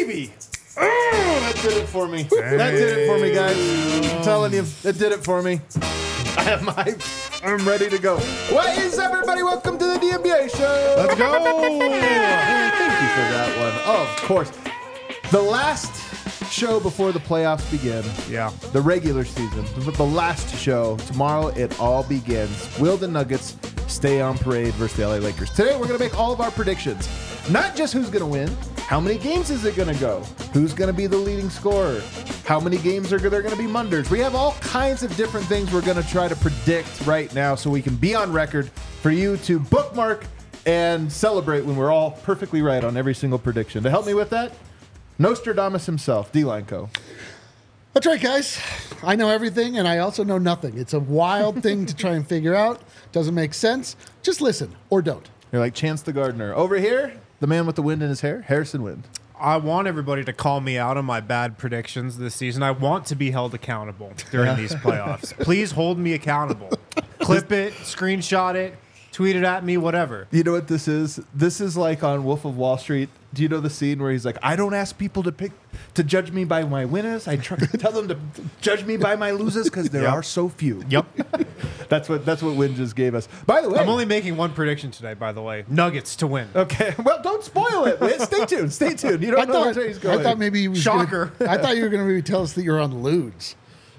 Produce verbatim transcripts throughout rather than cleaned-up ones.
baby. Oh, that did it for me. Dang. That did it for me, guys. I'm telling you, it did it for me. I have my... I'm ready to go. What is everybody? Welcome to the D M B A show. Let's go. Thank you for that one. Oh, of course. The last show before the playoffs begin. Yeah. The regular season. The last show. Tomorrow it all begins. Will the Nuggets stay on parade versus the L A Lakers? Today we're going to make all of our predictions. Not just who's going to win. How many games is it going to go? Who's going to be the leading scorer? How many games are there going to be Munders? We have all kinds of different things we're going to try to predict right now so we can be on record for you to bookmark and celebrate when we're all perfectly right on every single prediction. To help me with that, Nostradamus himself, D-Line Co. That's right, guys. I know everything, and I also know nothing. It's a wild thing to try and figure out. Doesn't make sense. Just listen, or don't. You're like Chance the Gardener. Over here, the man with the wind in his hair, Harrison Wind. I want everybody to call me out on my bad predictions this season. I want to be held accountable during these playoffs. Please hold me accountable. Clip it, screenshot it, tweet it at me, whatever. You know what this is? This is like on Wolf of Wall Street. Do you know the scene where he's like, I don't ask people to pick to judge me by my winners. I try to tell them to judge me by my losers because there Yep. are so few. Yep. That's what that's what Win just gave us. By the way, I'm only making one prediction today, by the way. Nuggets to win. okay. Well, don't spoil it. Win. Stay tuned. Stay tuned. You don't I know thought, where he's going. I thought maybe he was Shocker. Gonna, I thought you were going to maybe tell us that you're on Ludes.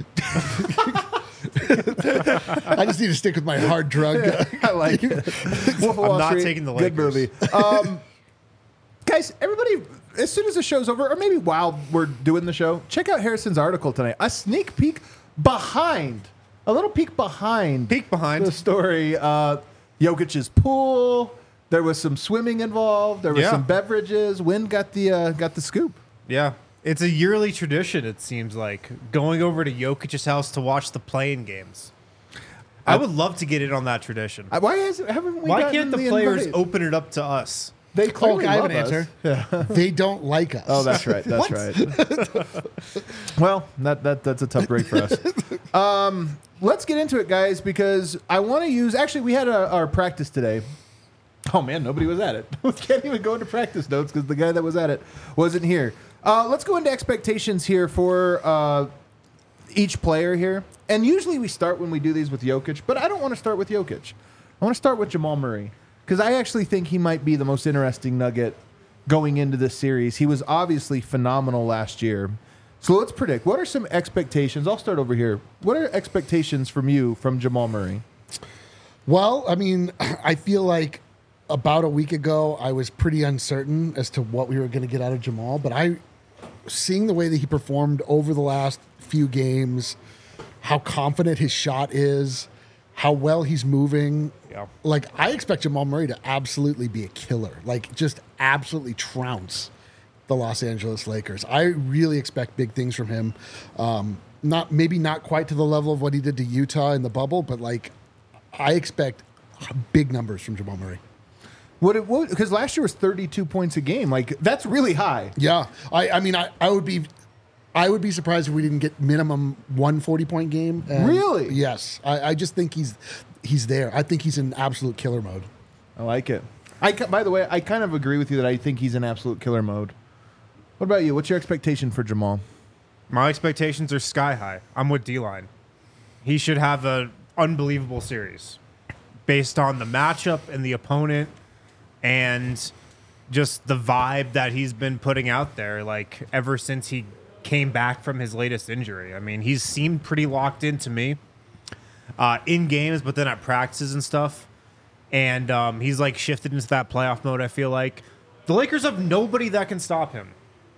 I just need to stick with my hard drug. I like it. Wolf of Wall I'm not Street, taking the good Lakers. movie. Um, guys, everybody, as soon as the show's over, or maybe while we're doing the show, check out Harrison's article tonight. A sneak peek behind, a little peek behind, Peek behind. the story. Uh, Jokic's pool. There was some swimming involved. There was Yeah. some beverages. Wind got the uh, got the scoop. Yeah. It's a yearly tradition, it seems like, going over to Jokic's house to watch the playing games. I would love to get in on that tradition. Uh, Why has haven't we? Why gotten can't the players invite? open it up to us? They clearly I have love an us. answer. They don't like us. Oh, that's right. That's right. Well, that, that that's a tough break for us. Um, let's get into it, guys, because I want to use. Actually, we had a, our practice today. Oh man, nobody was at it. We can't even go into practice notes because the guy that was at it wasn't here. Uh, let's go into expectations here for uh, each player here. And usually we start when we do these with Jokic, but I don't want to start with Jokic. I want to start with Jamal Murray because I actually think he might be the most interesting Nugget going into this series. He was obviously phenomenal last year. So let's predict. What are some expectations? I'll start over here. What are expectations from you from Jamal Murray? Well, I mean, I feel like about a week ago, I was pretty uncertain as to what we were going to get out of Jamal, but I, seeing the way that he performed over the last few games, how confident his shot is, how well he's moving, Yeah. like I expect Jamal Murray to absolutely be a killer, like just absolutely trounce the Los Angeles Lakers. I really expect big things from him. Um, not maybe not quite to the level of what he did to Utah in the bubble, but like I expect big numbers from Jamal Murray. What it what because last year was thirty-two points a game. Like that's really high. Yeah, I, I mean, I, I would be, I would be surprised if we didn't get minimum one forty-point game. And Really? Yes, I, I just think he's he's there. I think he's in absolute killer mode. I like it. I ca- by the way, I kind of agree with you that I think he's in absolute killer mode. What about you? What's your expectation for Jamal? My expectations are sky high. I'm with D-Line. He should have an unbelievable series based on the matchup and the opponent and just the vibe that he's been putting out there, like ever since he came back from his latest injury. I mean, he's seemed pretty locked in to me uh, in games, but then at practices and stuff. And um, he's like shifted into that playoff mode, I feel like. The Lakers have nobody that can stop him.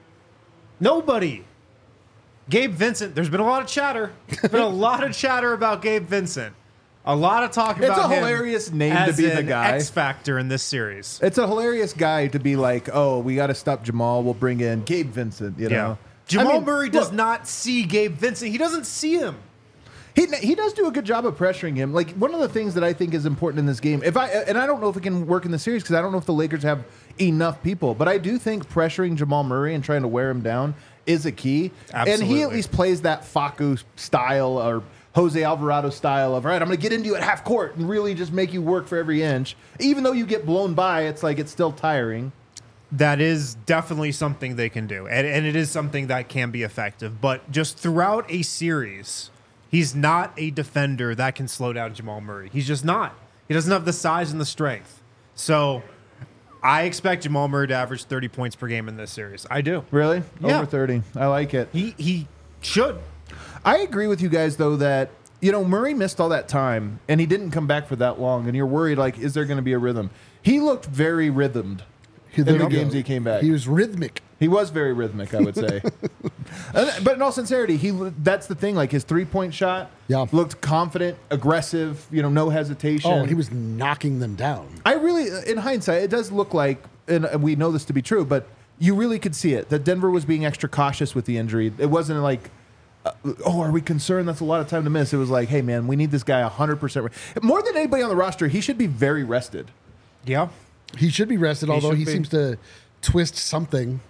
Nobody. Gabe Vincent, there's been a lot of chatter. There's been a lot of chatter about Gabe Vincent. A lot of talk It's about a him hilarious name as to be the an guy. X factor in this series. It's a hilarious guy to be like, oh, we got to stop Jamal. We'll bring in Gabe Vincent. You know, Jamal I mean, Murray does look, not see Gabe Vincent. He doesn't see him. He he does do a good job of pressuring him. Like one of the things that I think is important in this game, if I and I don't know if it can work in the series because I don't know if the Lakers have enough people, but I do think pressuring Jamal Murray and trying to wear him down is a key. Absolutely. And he at least plays that Facu style or Jose Alvarado style of, all right, I'm going to get into you at half court and really just make you work for every inch. Even though you get blown by, it's like it's still tiring. that is definitely something they can do. And, and it is something that can be effective. But just throughout a series, he's not a defender that can slow down Jamal Murray. He's just not. He doesn't have the size and the strength. So I expect Jamal Murray to average thirty points per game in this series. I do. Really? Yeah. Over thirty. I like it. He he should. I agree with you guys, though, that, you know, Murray missed all that time, and he didn't come back for that long, and you're worried, like, is there going to be a rhythm? He looked very rhythmed He- in there the you go. games he came back. He was rhythmic. He was very rhythmic, I would say. And- but in all sincerity, he that's the thing. Like, his three-point shot Yeah. looked confident, aggressive, you know, no hesitation. Oh, he was knocking them down. I really, in hindsight, it does look like, and we know this to be true, but you really could see it, that Denver was being extra cautious with the injury. It wasn't like, uh, oh, are we concerned? That's a lot of time to miss. It was like, hey, man, we need this guy one hundred percent. Re-. More than anybody on the roster, he should be very rested. Yeah. He should be rested, although should he be. seems to twist something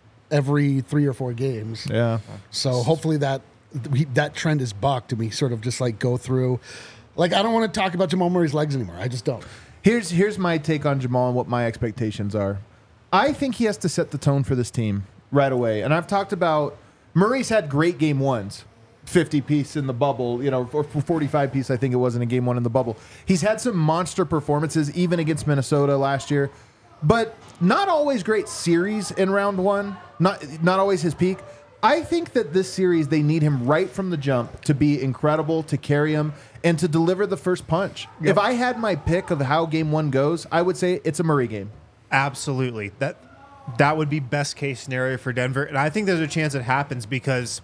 every three or four games. Yeah. So hopefully that we, that trend is bucked, and we sort of just like go through. Like, I don't want to talk about Jamal Murray's legs anymore. I just don't. Here's here's my take on Jamal and what my expectations are. I think he has to set the tone for this team right away. And I've talked about Murray's had great game ones, fifty piece in the bubble, you know, or forty-five piece, I think it was in a game one in the bubble. He's had some monster performances, even against Minnesota last year, but not always great series in round one. Not not always his peak. I think that this series, they need him right from the jump to be incredible, to carry him, and to deliver the first punch. Yep. If I had my pick of how game one goes, I would say it's a Murray game. Absolutely. That that would be best case scenario for Denver. And I think there's a chance it happens because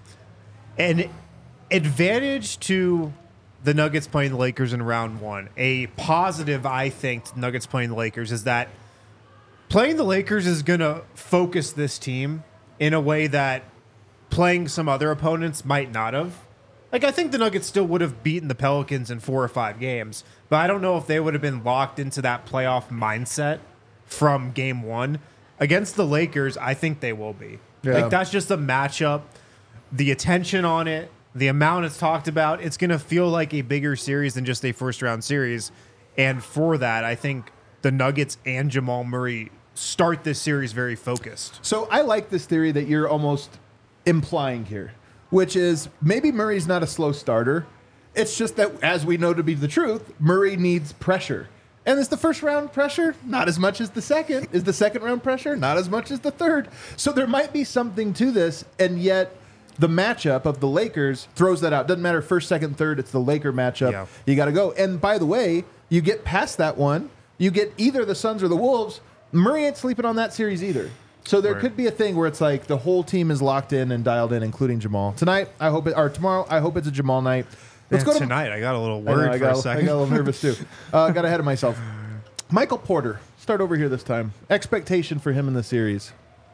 an advantage to the Nuggets playing the Lakers in round one, a positive, I think, to Nuggets playing the Lakers is that playing the Lakers is going to focus this team in a way that playing some other opponents might not have. Like, I think the Nuggets still would have beaten the Pelicans in four or five games, but I don't know if they would have been locked into that playoff mindset from game one. Against the Lakers, I think they will be. Yeah. Like, that's just a matchup. The attention on it, the amount it's talked about, it's going to feel like a bigger series than just a first-round series. And for that, I think the Nuggets and Jamal Murray start this series very focused. So I like this theory that you're almost implying here, which is maybe Murray's not a slow starter. It's just that, as we know to be the truth, Murray needs pressure. And is the first round pressure? Not as much as the second. Is the second round pressure? Not as much as the third. So there might be something to this, and yet the matchup of the Lakers throws that out. Doesn't matter first, second, third. It's the Laker matchup. Yeah. You got to go. And by the way, you get past that one, you get either the Suns or the Wolves. Murray ain't sleeping on that series either. So there Right. could be a thing where it's like the whole team is locked in and dialed in, including Jamal. Tonight, I hope it, or tomorrow, I hope it's a Jamal night. Let's Man, go to tonight. I got a little I know, worried I for got, a I second. got a little nervous too. Uh, got ahead of myself. Michael Porter, start over here this time. Expectation for him in the series.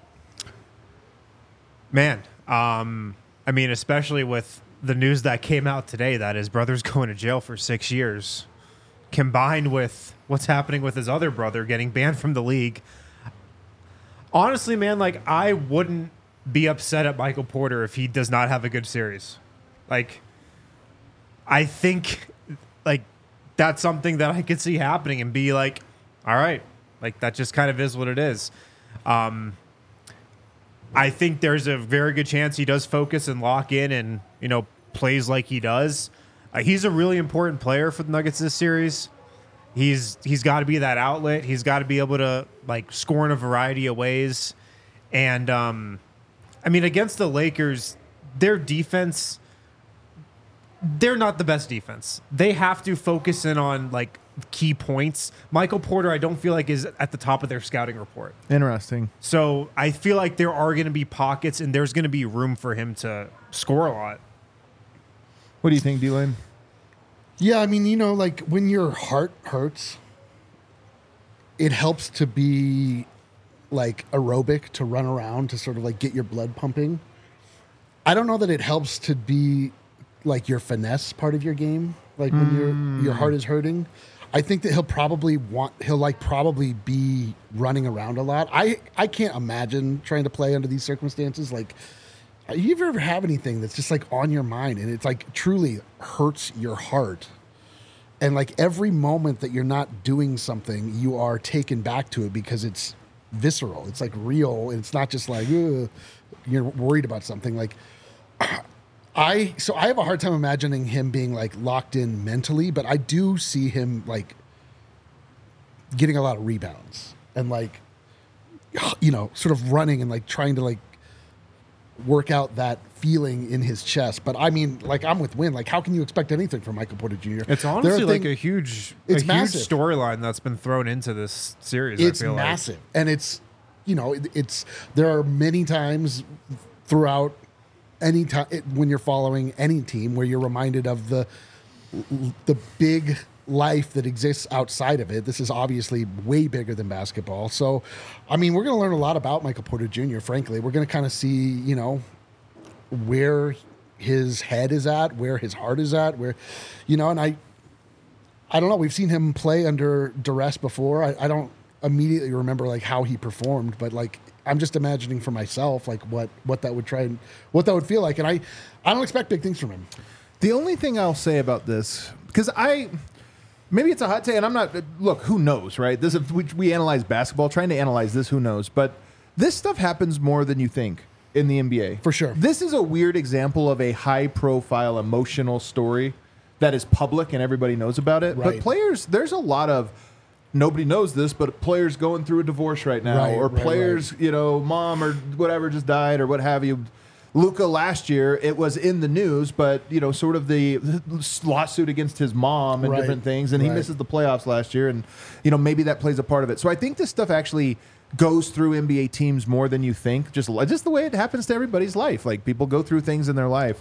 Man, um, I mean, especially with the news that came out today that his brother's going to jail for six years, combined with what's happening with his other brother getting banned from the league. Honestly, man, like, I wouldn't be upset at Michael Porter if he does not have a good series. Like, I think, like, that's something that I could see happening and be like, all right, like, that just kind of is what it is. Um, I think there's a very good chance he does focus and lock in and, you know, plays like he does. Uh, he's a really important player for the Nuggets this series. He's he's got to be that outlet. He's got to be able to, like, score in a variety of ways. And, um, I mean, against the Lakers, their defense, they're not the best defense. They have to focus in on, like, key points. Michael Porter, I don't feel like is at the top of their scouting report. Interesting. So I feel like there are going to be pockets and there's going to be room for him to score a lot. What do you think, D-Lane? Yeah, I mean, you know, like when your heart hurts, it helps to be like aerobic, to run around, to sort of like get your blood pumping. I don't know that it helps to be like your finesse part of your game, like when Mm. your your heart is hurting. I think that he'll probably want he'll like probably be running around a lot. I I can't imagine trying to play under these circumstances. Like, you ever have anything that's just like on your mind and it's like truly hurts your heart, and like every moment that you're not doing something, you are taken back to it because it's visceral. It's like real. And it's not just like ugh, you're worried about something. Like I, so I have a hard time imagining him being like locked in mentally, but I do see him like getting a lot of rebounds and like, you know, sort of running and like trying to like work out that feeling in his chest. But I mean, like I'm with Win. Like, how can you expect anything from Michael Porter Junior? It's honestly like a huge, it's a massive. huge storyline that's been thrown into this series. It's I feel massive, like. and it's you know, it, it's there are many times throughout any time when you're following any team where you're reminded of the the big life that exists outside of it. This is obviously way bigger than basketball. So, I mean, we're going to learn a lot about Michael Porter Junior, frankly. We're going to kind of see, you know, where his head is at, where his heart is at, where, you know, and I, I don't know. We've seen him play under duress before. I, I don't immediately remember like how he performed, but like, I'm just imagining for myself, like what, what that would try and what that would feel like. And I, I don't expect big things from him. The only thing I'll say about this, because I, maybe it's a hot take, and I'm not. Look, who knows, right? This is, we, we analyze basketball, trying to analyze this. Who knows? But this stuff happens more than you think in the N B A, for sure. This is a weird example of a high-profile, emotional story that is public and everybody knows about it. Right. But players, there's a lot of nobody knows this, but players going through a divorce right now, right, or right, players, right. you know, mom or whatever just died, or what have you. Luka last year, it was in the news, but, you know, sort of the lawsuit against his mom and right. different things, and he right. misses the playoffs last year, and, you know, maybe that plays a part of it. So I think this stuff actually goes through N B A teams more than you think, just, just the way it happens to everybody's life. Like, people go through things in their life.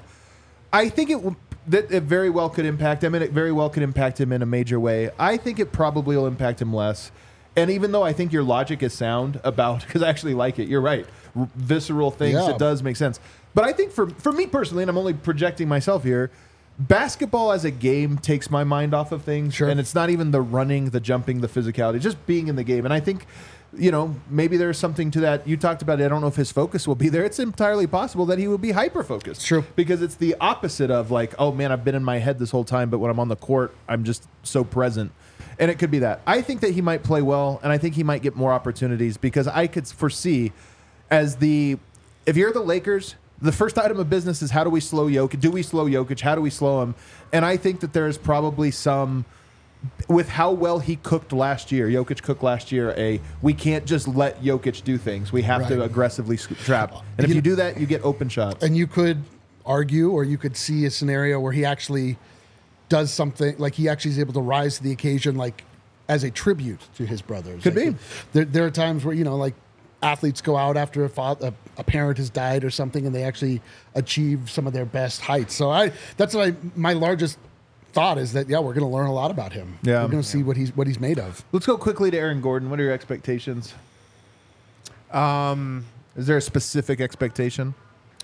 I think it, that it very well could impact him, and it very well could impact him in a major way. I think it probably will impact him less. And even though I think your logic is sound about, because I actually like it, you're right, R- visceral things, Yeah. it does make sense. But I think for for me personally, and I'm only projecting myself here, basketball as a game takes my mind off of things. Sure. And it's not even the running, the jumping, the physicality, just being in the game. And I think, you know, maybe there's something to that. You talked about it. I don't know if his focus will be there. It's entirely possible that he will be hyper-focused. True. Because it's the opposite of like, oh, man, I've been in my head this whole time, but when I'm on the court, I'm just so present. And it could be that. I think that he might play well, and I think he might get more opportunities because I could foresee as the – if you're the Lakers – the first item of business is how do we slow Jokic? Do we slow Jokic? How do we slow him? And I think that there's probably some, with how well he cooked last year, Jokic cooked last year, a we can't just let Jokic do things. We have Right. to aggressively sc- trap. And if You you know- do that, you get open shots. And you could argue, or you could see a scenario where he actually does something, like he actually is able to rise to the occasion, like as a tribute to his brothers. Could Like, be. There, there are times where, you know, like athletes go out after a, father, a, a parent has died or something, and they actually achieve some of their best heights. So I, that's what I, my largest thought is that, yeah, we're going to learn a lot about him. Yeah. We're going to see what he's, what he's made of. Let's go quickly to Aaron Gordon. What are your expectations? Um, Is there a specific expectation?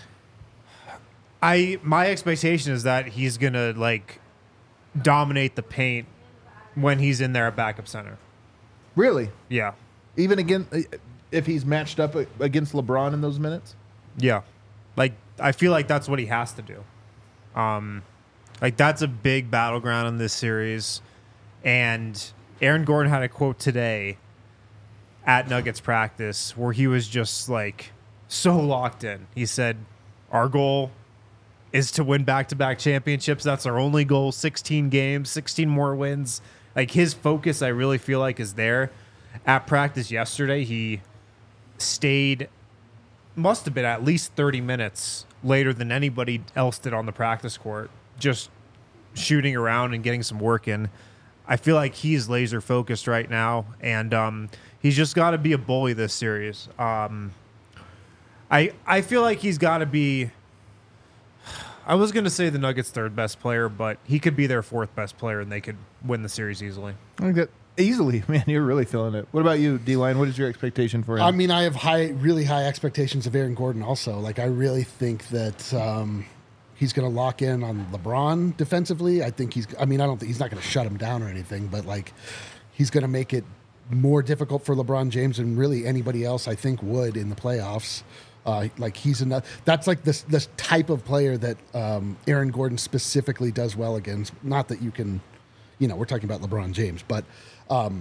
I my expectation is that he's gonna like dominate the paint when he's in there at backup center. Really? Yeah, Even again, if he's matched up against LeBron in those minutes? yeah. Like I feel like that's what he has to do. Um, like that's a big battleground in this series, and Aaron Gordon had a quote today at Nuggets practice where he was just like so locked in. He said, "Our goal is to win back-to-back championships. That's our only goal. sixteen games, sixteen more wins." Like his focus, I really feel like, is there. At practice yesterday, he stayed, must have been at least thirty minutes later than anybody else did on the practice court, just shooting around and getting some work in. I feel like he's laser focused right now, and um, he's just got to be a bully this series. Um, I I feel like he's got to be. I was going to say the Nuggets' third best player, but he could be their fourth best player, and they could win the series easily. I think that easily, man. You're really feeling it. What about you, D-Line? What is your expectation for him? I mean, I have high, really high expectations of Aaron Gordon also. Like, I really think that um, he's going to lock in on LeBron defensively. I think he's, I mean, I don't think he's not going to shut him down or anything, but like, he's going to make it more difficult for LeBron James than really anybody else, I think, would in the playoffs. Uh, like he's enough. That's like this this type of player that um, Aaron Gordon specifically does well against. Not that you can, you know, we're talking about LeBron James, but um,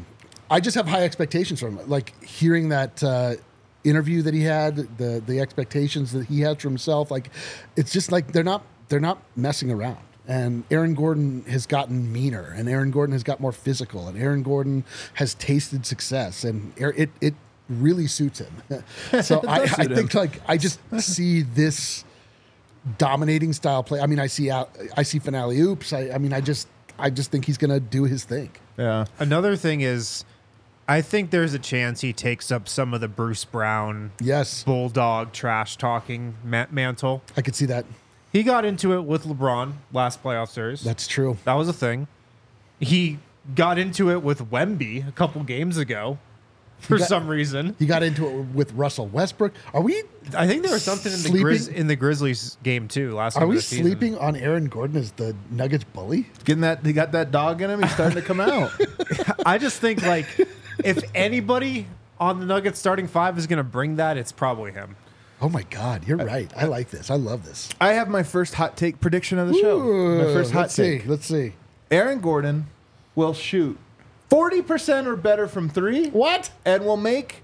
I just have high expectations from him. Like hearing that uh, interview that he had, the the expectations that he has for himself. Like it's just like they're not they're not messing around. And Aaron Gordon has gotten meaner, and Aaron Gordon has got more physical, and Aaron Gordon has tasted success, and it it really suits him. So I, I think him. like I just see this dominating style play. I mean, I see out, I see finale oops. I, I mean, I just I just think he's going to do his thing. Yeah. Another thing is, I think there's a chance he takes up some of the Bruce Brown, yes, bulldog trash talking ma- mantle. I could see that. He got into it with LeBron last playoff series. That's true. That was a thing. He got into it with Wemby a couple games ago for got, some reason. He got into it with Russell Westbrook. Are we? I think there was something in the Grizz, in the Grizzlies game too last. Are we sleeping season. on Aaron Gordon as the Nuggets bully? Getting that, he got that dog in him. He's starting to come out. I just think like if anybody on the Nuggets starting five is going to bring that, it's probably him. Oh my God, you're right. I like this. I love this. I have my first hot take prediction of the show. Ooh, my first hot let's take. See. Let's see. Aaron Gordon will shoot forty percent or better from three. What? And will make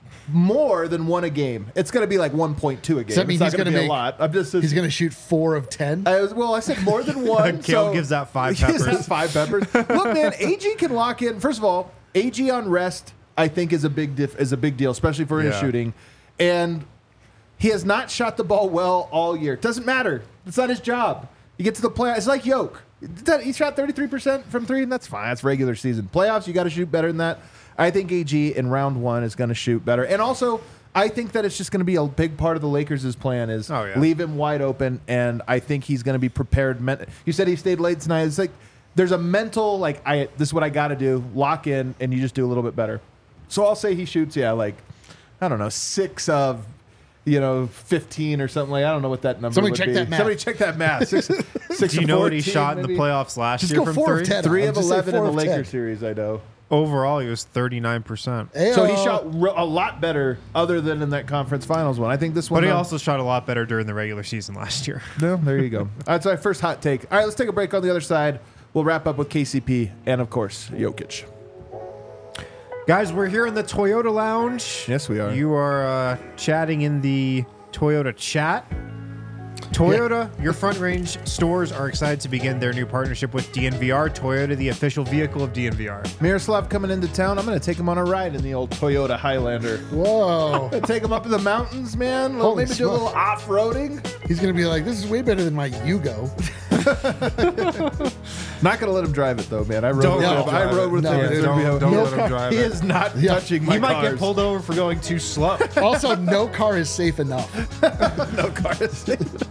more than one a game. It's going to be like one point two a game. Does that mean it's he's not going to be make, a lot. I'm just. He's going to shoot four of ten. I was, well, I said more than one. Kale so gives that five peppers. Gives that five peppers. Look, man, A G can lock in. First of all, A G on rest, I think, is a big diff, is a big deal, especially for his yeah. shooting. And he has not shot the ball well all year. Doesn't matter. It's not his job. You get to the playoffs. It's like Yoke. He shot thirty-three percent from three, and that's fine. That's regular season. Playoffs, you got to shoot better than that. I think A G in round one is going to shoot better. And also, I think that it's just going to be a big part of the Lakers' plan is oh, yeah. leave him wide open, and I think he's going to be prepared. You said he stayed late tonight. It's like there's a mental, like, I this is what I got to do. Lock in, and you just do a little bit better. So I'll say he shoots, yeah, like, I don't know, six of... You know, fifteen or something like. I don't know what that number. Somebody would check be. that math. Somebody check that math. Six, six Do you know fourteen, what he shot maybe? in the playoffs last Just year go from four three? of ten. Three I'll of just say eleven in four the of Lakers ten. series. I know. Overall, he was thirty-nine percent. Ayo. So he shot re- a lot better, other than in that conference finals one. I think this one. But he uh, also shot a lot better during the regular season last year. No, there you go. That's my first hot take. All right, let's take a break. On the other side, we'll wrap up with K C P and, of course, Jokic. Guys, we're here in the Toyota Lounge. Yes, we are. You are uh, chatting in the Toyota chat. Toyota, yeah. Your Front Range stores are excited to begin their new partnership with D N V R. Toyota, the official vehicle of D N V R. Miroslav coming into town. I'm going to take him on a ride in the old Toyota Highlander. Whoa. Take him up in the mountains, man. Holy Maybe do a little smoke. off-roading. He's going to be like, this is way better than my Yugo. Not going to let him drive it, though, man. I rode Don't with let him. him I drive rode it. with No, him. dude, It's don't- gonna be- don't no let him car- drive He it. is not Yeah. touching my He might cars. get pulled over for going too slow. Also, no car is safe enough. No cars.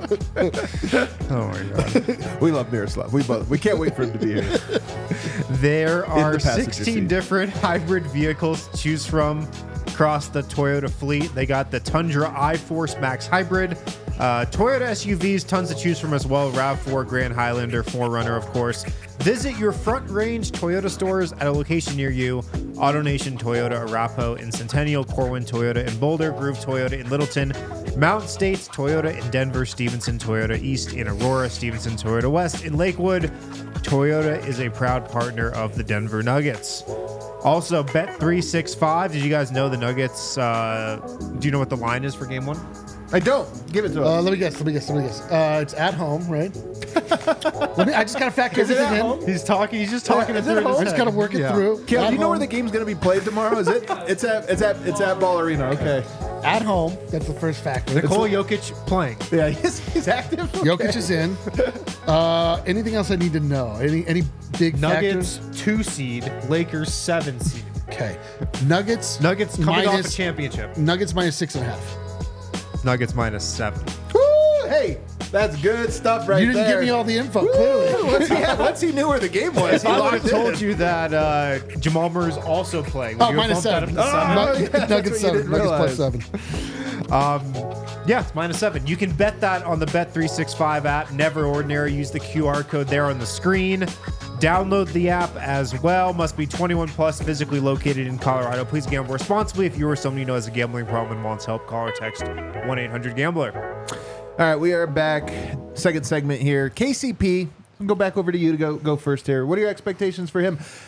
Oh my god. We love Miroslav. We both. We can't wait for him to be here. There are the passenger sixteen seat. different hybrid vehicles to choose from across the Toyota fleet. They got the Tundra iForce Max Hybrid, uh, Toyota S U Vs, tons to choose from as well. RAV four, Grand Highlander, four runner, of course. Visit your Front Range Toyota stores at a location near you. AutoNation Toyota, Arapahoe in Centennial, Corwin Toyota in Boulder, Groove Toyota in Littleton, Mountain States Toyota in Denver, Stevenson Toyota East in Aurora, Stevenson Toyota West in Lakewood. Toyota is a proud partner of the Denver Nuggets. Also, Bet three sixty-five. Did you guys know the Nuggets? Uh, do you know what the line is for game one? I don't. Give it to Uh, us. let me guess. Let me guess. Let me guess. Uh, it's at home, right? let me. I just gotta fact check Is it everything at in. home? He's talking. He's just talking Is it it through. in home? his I just head. gotta work it Yeah. through. Kale, At do you know where home. the game's going to be played tomorrow? Is it? It's at. It's at. It's at Ball Arena. Okay. At home. That's the first factor. Nikola Jokic playing. Yeah, he's, he's active. Okay. Jokic is in. Uh, anything else I need to know? Any any big Nuggets factors? two seed, Lakers seven seed. Okay. Nuggets. Nuggets coming off a minus- championship. Nuggets minus six and a half. Nuggets minus seven. Woo! Hey, that's good stuff right you didn't there. give me all the info. Woo! Clearly. Once he, had, once he knew where the game was, If he I would locked have told in. you that uh, Jamal Murray's also playing, would Oh, you have minus bumped that seven. up to seven? Oh, yeah, that's Nuggets what you seven. didn't Nuggets plus realize. seven. Um, yeah, it's minus seven. You can bet that on the Bet three sixty-five app. Never Ordinary. Use the Q R code there on the screen. Download the app as well. Must be twenty-one plus, physically located in Colorado. Please gamble responsibly. If you or someone you know has a gambling problem and wants help, call or text one eight hundred gambler. All right, we are back. Second segment here. K C P, I'll go back over to you to go go first here. What are your expectations for him?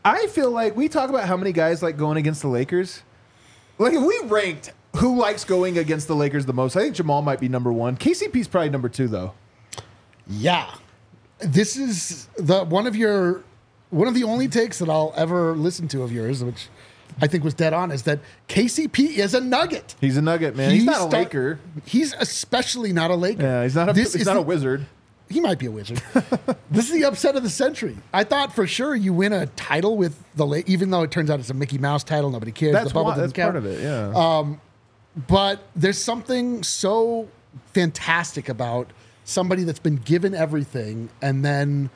I feel like we talk about how many guys like going against the Lakers. Like if we ranked who likes going against the Lakers the most, I think Jamal might be number one. K C P's probably number two, though. Yeah, this is the one of your one of the only takes that I'll ever listen to of yours, which I think was dead on, is that K C P is a Nugget. He's a Nugget, man. He's He not a start- Laker. He's especially not a Laker. Yeah, he's not a. This he's is not the- a wizard. He might be a wizard. This is the upset of the century. I thought for sure you win a title with the Lakers, even though it turns out it's a Mickey Mouse title. Nobody cares. That's the bubble why, that's doesn't part count. of it. Yeah. But there's something so fantastic about somebody that's been given everything and then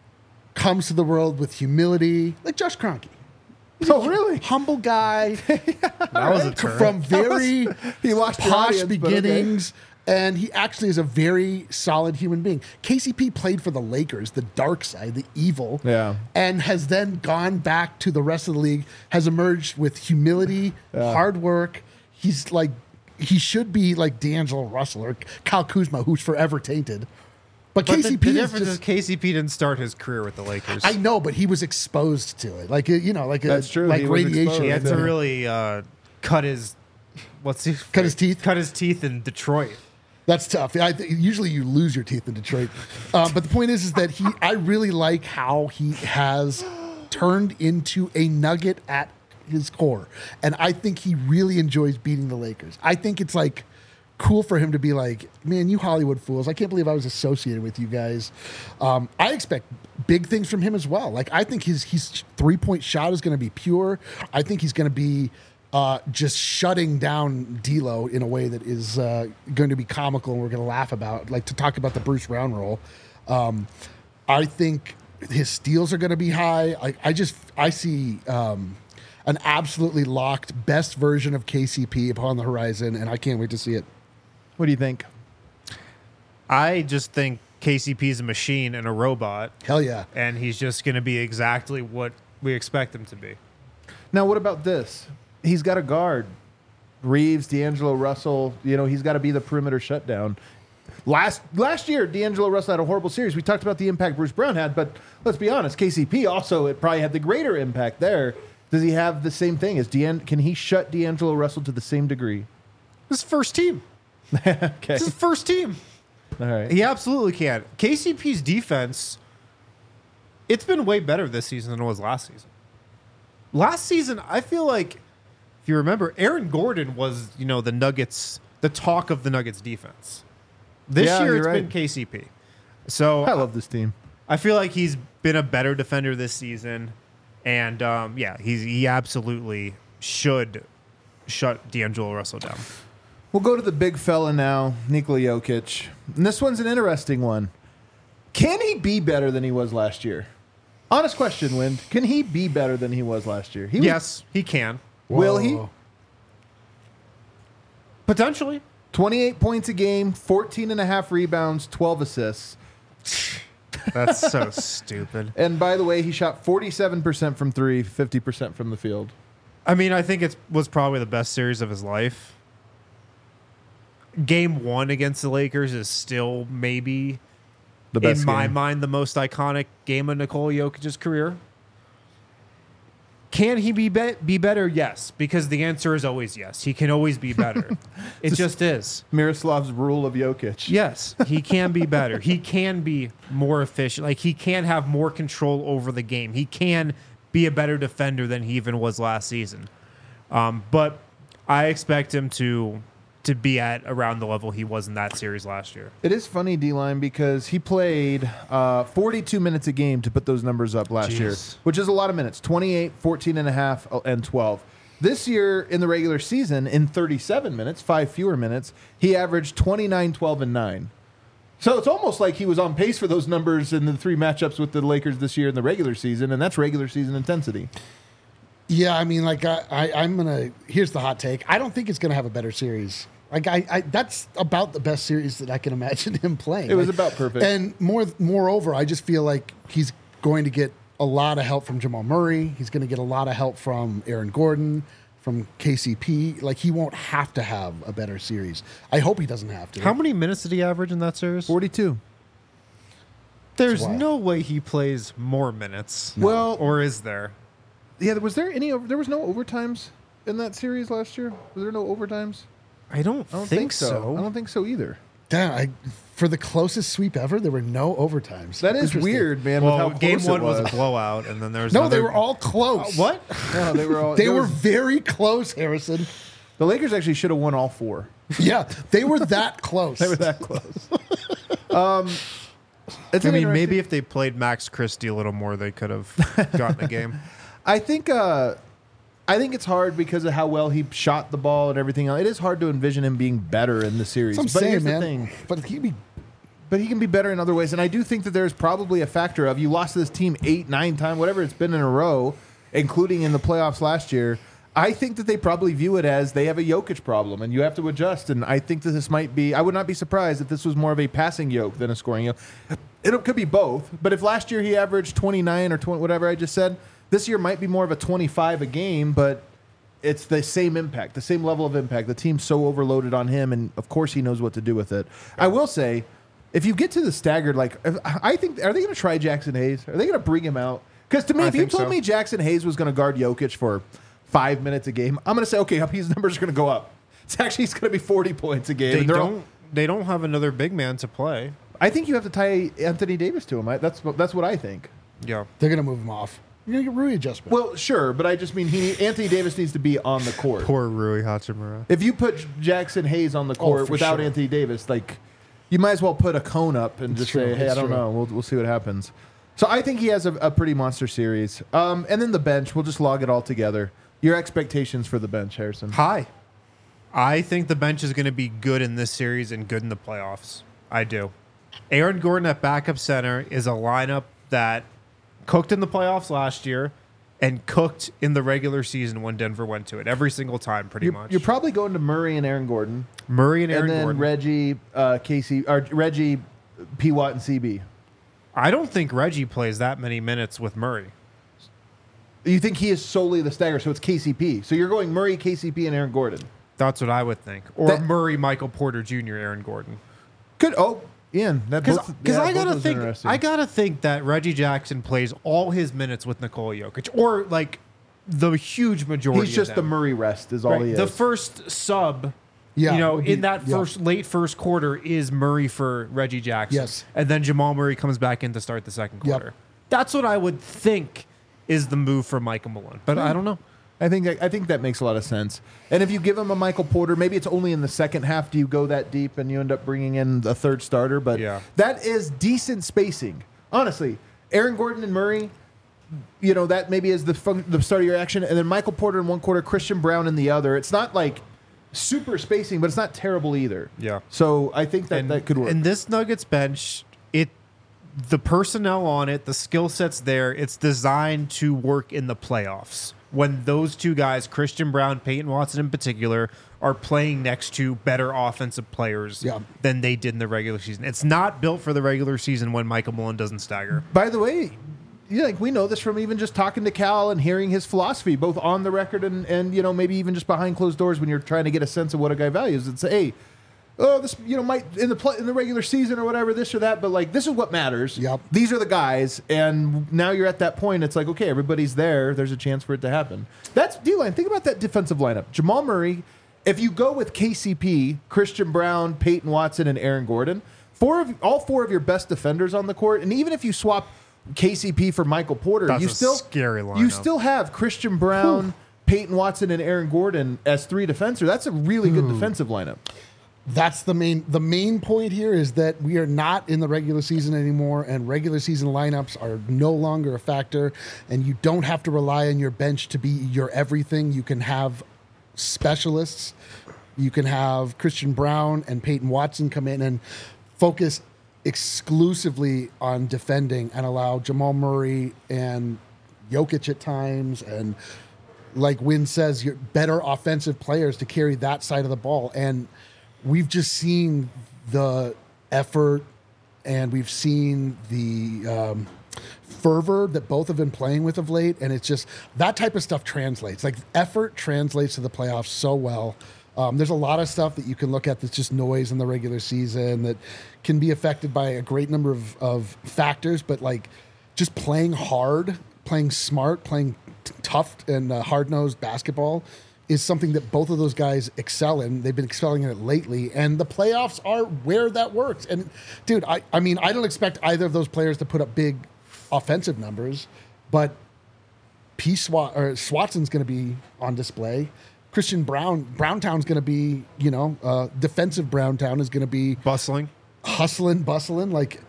comes to the world with humility, like Josh Kroenke. oh, really? Humble guy That was a turn. from very He lost your posh audience, but okay. beginnings. And he actually is a very solid human being. K C P played for the Lakers, the dark side, the evil, Yeah. and has then gone back to the rest of the league, has emerged with humility, hard work. He's like, he should be like D'Angelo Russell or Kyle Kuzma, who's forever tainted. But, But K the, C the P is difference is just, K C P didn't start his career with the Lakers. I know, but he was exposed to it. Like, uh, you know, like, a, That's true. like He was radiation. exposed. he had Yeah. to really uh, cut his what's he Cut his teeth? Cut his teeth in Detroit. That's tough. I th- usually you lose your teeth in Detroit, uh, but the point is, is that he. I really like how he has turned into a Nugget at his core, and I think he really enjoys beating the Lakers. I think it's like cool for him to be like, man, you Hollywood fools! I can't believe I was associated with you guys. Um, I expect big things from him as well. Like I think his his three point shot is going to be pure. I think he's going to be. Uh, just shutting down D'Lo in a way that is uh, going to be comical and we're going to laugh about, like to talk about the Bruce Brown role. Um, I think his steals are going to be high. I, I just I see um, an absolutely locked best version of K C P upon the horizon, and I can't wait to see it. What do you think? I just think K C P is a machine and a robot, Hell yeah! and he's just going to be exactly what we expect him to be. Now, what about this? He's got a guard. Reeves, D'Angelo Russell, you know, he's got to be the perimeter shutdown. Last last year, D'Angelo Russell had a horrible series. We talked about the impact Bruce Brown had, but let's be honest, K C P also it probably had the greater impact there. Does he have the same thing? As D'An- can he shut D'Angelo Russell to the same degree? His first team. Okay. It's his first team. All right. He absolutely can. K C P's defense, it's been way better this season than it was last season. Last season, I feel like, if you remember, Aaron Gordon was, you know, the Nuggets, the talk of the Nuggets defense. This Yeah, year, you're it's right. been K C P. So I love this team. I feel like he's been a better defender this season. And, um, yeah, he's, he absolutely should shut D'Angelo Russell down. We'll go to the big fella now, Nikola Jokic. And this one's an interesting one. Can he be better than he was last year? Honest question, Wind. Can he be better than he was last year? He was, Yes, he can. Will he? Whoa. Potentially. twenty-eight points a game, fourteen and a half rebounds, twelve assists. That's so stupid. And by the way, he shot forty-seven percent from three, fifty percent from the field. I mean, I think it was probably the best series of his life. Game one against the Lakers is still maybe, The best in my game. mind, the most iconic game of Nikola Jokic's career. Can he be be, be better? Yes, because the answer is always yes. He can always be better. It just is. Miroslav's rule of Jokic. Yes, he can be better. He can be more efficient. Like, he can have more control over the game. He can be a better defender than he even was last season. Um, but I expect him to to be at around the level he was in that series last year. It is funny, D-Line, because he played uh, forty-two minutes a game to put those numbers up last year, Jeez. which is a lot of minutes, twenty-eight, fourteen and a half, and twelve. This year in the regular season, in thirty-seven minutes, five fewer minutes, he averaged twenty-nine, twelve, and nine. So it's almost like he was on pace for those numbers in the three matchups with the Lakers this year in the regular season, and that's regular season intensity. Yeah, I mean, like I, I, I'm gonna. Here's the hot take. I don't think it's gonna have a better series. Like I, I, that's about the best series that I can imagine him playing. It was Like, about perfect. And more, moreover, I just feel like he's going to get a lot of help from Jamal Murray. He's going to get a lot of help from Aaron Gordon, from K C P. Like he won't have to have a better series. I hope he doesn't have to. How many minutes did he average in that series? forty-two. There's Wow. no way he plays more minutes. Well- or is there? Yeah, was there any? Over, there was no overtimes in that series last year. Was there no overtimes? I don't, I don't think, so. I don't think so either. Damn, I, for the closest sweep ever, there were no overtimes. That is Interesting. weird, man. Well, with how game close one it was. was a blowout, and then there was No, another, they were all close. Uh, what? No, they were all. They there were was- very close, Harrison. the Lakers actually should have won all four. Yeah, they were that close. They were that close. um, it's I an mean, interesting- maybe if they played Max Christie a little more, they could have gotten a game. I think. Uh, I think it's hard because of how well he shot the ball and everything else. It is hard to envision him being better in the series. That's But what I'm here's saying, the man. thing. But he'd be But he can be better in other ways. And I do think that there's probably a factor of you lost to this team eight, nine times, whatever it's been in a row, including in the playoffs last year. I think that they probably view it as they have a Jokic problem and you have to adjust. And I think that this might be, I would not be surprised if this was more of a passing yoke than a scoring yoke. It could be both. But if last year he averaged twenty-nine or twenty, whatever I just said, this year might be more of a twenty-five a game, but it's the same impact, the same level of impact. The team's so overloaded on him, and of course he knows what to do with it. I will say, if you get to the staggered, like if, I think, are they going to try Jackson Hayes? Are they going to bring him out? Because to me, I if you think told so. me Jackson Hayes was going to guard Jokic for five minutes a game, I'm going to say, okay, his numbers are going to go up. It's actually it's going to be forty points a game. They and they're all- don't. They don't have another big man to play. I think you have to tie Anthony Davis to him. I, that's that's what I think. Yeah. they're gonna move him off. You're gonna get Rui adjustment. Well, sure, but I just mean he Anthony Davis needs to be on the court. Poor Rui Hachimura. If you put Jackson Hayes on the court for without sure. Anthony Davis, like you might as well put a cone up and It's just true, say, "Hey, it's I don't true. know. We'll we'll see what happens." So I think he has a, a pretty monster series. Um, and then the bench, we'll just log it all together. Your expectations for the bench, Harrison? High. I think the bench is going to be good in this series and good in the playoffs. I do. Aaron Gordon at backup center is a lineup that cooked in the playoffs last year and cooked in the regular season when Denver went to it every single time, pretty You're, much. you're probably going to Murray and Aaron Gordon, Murray and Aaron and then Gordon. Reggie, uh, Casey, or Reggie, P. Watt, and C B. I don't think Reggie plays that many minutes with Murray. You think he is solely the stagger, so it's K C P. So you're going Murray, K C P, and Aaron Gordon. That's what I would think. Or That- Murray, Michael Porter Junior, Aaron Gordon. Good. Oh, Ian. That Because both- yeah, I both gotta those think interesting. I gotta think that Reggie Jackson plays all his minutes with Nikola Jokic, or like the huge majority. He's just of the them. Murray rest is all Right. he is. The first sub, Yeah, you know, would be- in that yeah. first late first quarter is Murray for Reggie Jackson. Yes. And then Jamal Murray comes back in to start the second Yep. quarter. That's what I would think is the move for Michael Malone. But I don't know. I think I think that makes a lot of sense. And if you give him a Michael Porter, maybe it's only in the second half do you go that deep and you end up bringing in the third starter. But Yeah. that is decent spacing. Honestly, Aaron Gordon and Murray, you know, that maybe is the fun, the start of your action. And then Michael Porter in one quarter, Christian Brown in the other. It's not like super spacing, but it's not terrible either. Yeah. So I think that and, that could work. And this Nuggets bench, it the personnel on it, the skill sets there, it's designed to work in the playoffs. When those two guys, Christian Brown, Peyton Watson in particular, are playing next to better offensive players Yeah. than they did in the regular season. It's not built for the regular season when Michael Malone doesn't stagger. By the way, yeah, like we know this from even just talking to Cal and hearing his philosophy, both on the record and, and you know maybe even just behind closed doors when you're trying to get a sense of what a guy values. And say, hey, oh, this you know might in the play, in the regular season or whatever, this or that, but like this is what matters. Yep. These are the guys, and now you're at that point. It's like okay, everybody's there. There's a chance for it to happen. That's D-line. Think about that defensive lineup: Jamal Murray. If you go with K C P, Christian Brown, Peyton Watson, and Aaron Gordon, four of all four of your best defenders on the court, and even if you swap K C P for Michael Porter, That's you a still scary lineup. You still have Christian Brown, Peyton Watson, and Aaron Gordon as three defenders. That's a really good defensive lineup. That's the main the main point here is that we are not in the regular season anymore, and regular season lineups are no longer a factor, and you don't have to rely on your bench to be your everything. You can have specialists. You can have Christian Brown and Peyton Watson come in and focus exclusively on defending and allow Jamal Murray and Jokic at times and like Wynn says, you're better offensive players to carry that side of the ball. And we've just seen the effort and we've seen the um, fervor that both have been playing with of late. And it's just that type of stuff translates. Like effort translates to the playoffs so well. Um, there's a lot of stuff that you can look at that's just noise in the regular season that can be affected by a great number of, of factors. But like just playing hard, playing smart, playing tough and uh, hard-nosed basketball is something that both of those guys excel in. They've been excelling in it lately, and the playoffs are where that works. And dude, I, I mean, I don't expect either of those players to put up big offensive numbers, but P. Swat or Swatson's going to be on display. Christian Brown, Browntown's going to be, you know, uh, defensive Browntown is going to be Bustling. hustling, bustling. Like,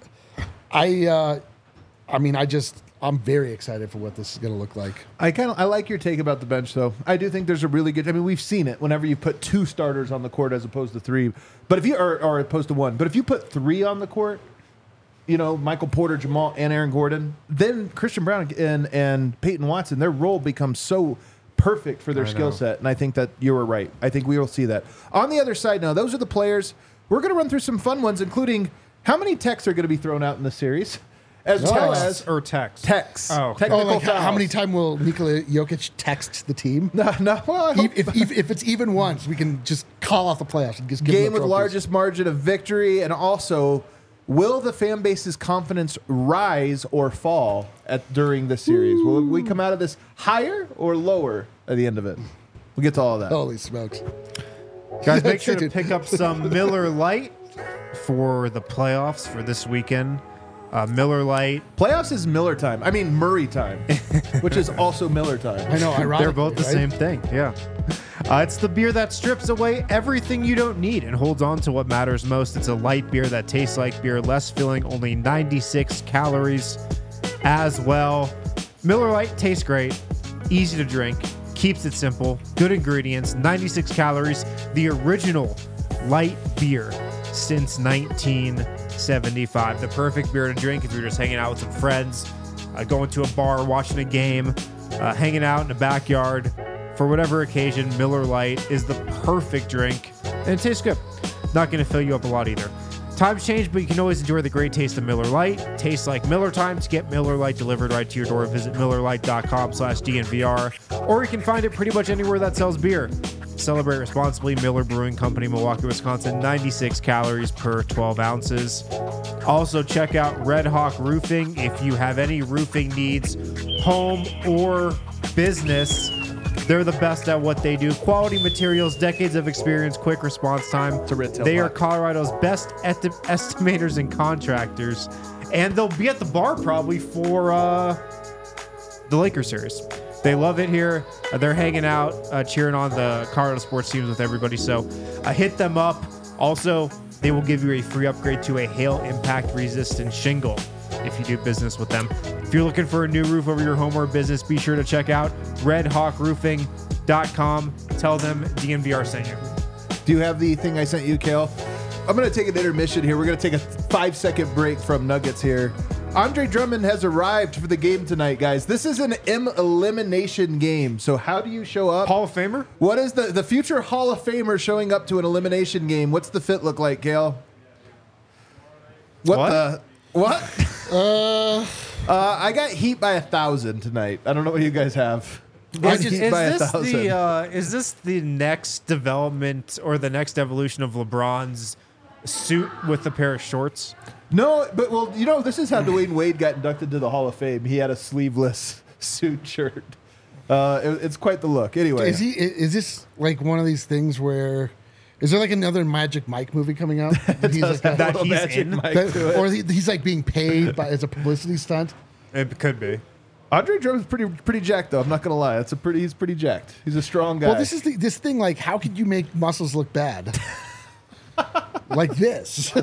I, uh, I mean, I just. I'm very excited for what this is going to look like. I kind of I like your take about the bench, though. I do think there's a really good. I mean, we've seen it whenever you put two starters on the court as opposed to three, but if you or, or opposed to one, but if you put three on the court, you know, Michael Porter, Jamal, and Aaron Gordon, then Christian Brown and and Peyton Watson, their role becomes so perfect for their I skill know. set, and I think that you were right. I think we will see that. On the other side, now those are the players. We're going to run through some fun ones, including how many techs are going to be thrown out in the series, as Oh. well Text as or text? techs. Oh, okay. Technical Oh, like how, how fouls. many times will Nikola Jokic text the team? No, no. Well, I hope- if, if, if it's even once, we can just call off the playoffs and just give them game the with trophies. largest margin of victory, and also, will the fan base's confidence rise or fall at during the series? Will we come out of this higher or lower at the end of it? We'll get to all of that. Holy smokes! Guys, make sure to Dude. pick up some Miller Lite for the playoffs for this weekend. Uh, Miller Lite. Playoffs is Miller time. I mean Murray time, which is also Miller time. I know, ironically, They're both the right? same thing. Yeah. Uh, it's the beer that strips away everything you don't need and holds on to what matters most. It's a light beer that tastes like beer, less filling, only ninety-six calories as well. Miller Lite tastes great, easy to drink, keeps it simple, good ingredients, ninety-six calories. The original light beer since nineteen seventy-five. The perfect beer to drink if you're just hanging out with some friends, uh, going to a bar, watching a game, uh, hanging out in the backyard. For whatever occasion, Miller Lite is the perfect drink, and it tastes good. Not going to fill you up a lot either. Times change, but you can always enjoy the great taste of Miller Lite. Tastes like Miller time. To get Miller Lite delivered right to your door, visit MillerLite.com slash DNVR, or you can find it pretty much anywhere that sells beer. Celebrate responsibly. Miller Brewing Company, Milwaukee, Wisconsin. ninety-six calories per twelve ounces. Also, check out Red Hawk Roofing if you have any roofing needs, home or business. They're the best at what they do. Quality materials, decades of experience, quick response time. It's a red tail They are black. Colorado's best esti- estimators and contractors, and they'll be at the bar probably for uh, the Lakers series. They love it here. Uh, they're hanging out, uh, cheering on the Colorado sports teams with everybody. So uh, hit them up. Also, they will give you a free upgrade to a hail impact resistant shingle if you do business with them. If you're looking for a new roof over your home or business, be sure to check out red hawk roofing dot com. Tell them D N V R sent you. Do you have the thing I sent you, Kale? I'm going to take an intermission here. We're going to take a five second break from Nuggets here. Andre Drummond has arrived for the game tonight, guys. This is an M elimination game. So how do you show up? Hall of Famer? What is the, the future Hall of Famer showing up to an elimination game? What's the fit look like, Gail? What, What? the? What? Uh, uh, I got Heat by a thousand tonight. I don't know what you guys have. I Is, just is Heat by a this thousand. the uh, is this the next development or the next evolution of LeBron's suit with a pair of shorts? No, but well, you know, this is how Dwayne Wade got inducted to the Hall of Fame. He had a sleeveless suit shirt. Uh, it- it's quite the look. Anyway, Is he? Is this like one of these things where? Is there like another Magic Mike movie coming out? That he's like, That Little he's Magic in? Mike that- to it. or he, he's like being paid by as a publicity stunt. It could be. Andre Drummond's pretty pretty jacked though. I'm not gonna lie. That's a pretty. He's pretty jacked. He's a strong guy. Well, this is the, this thing. Like, how could you make muscles look bad? Like this.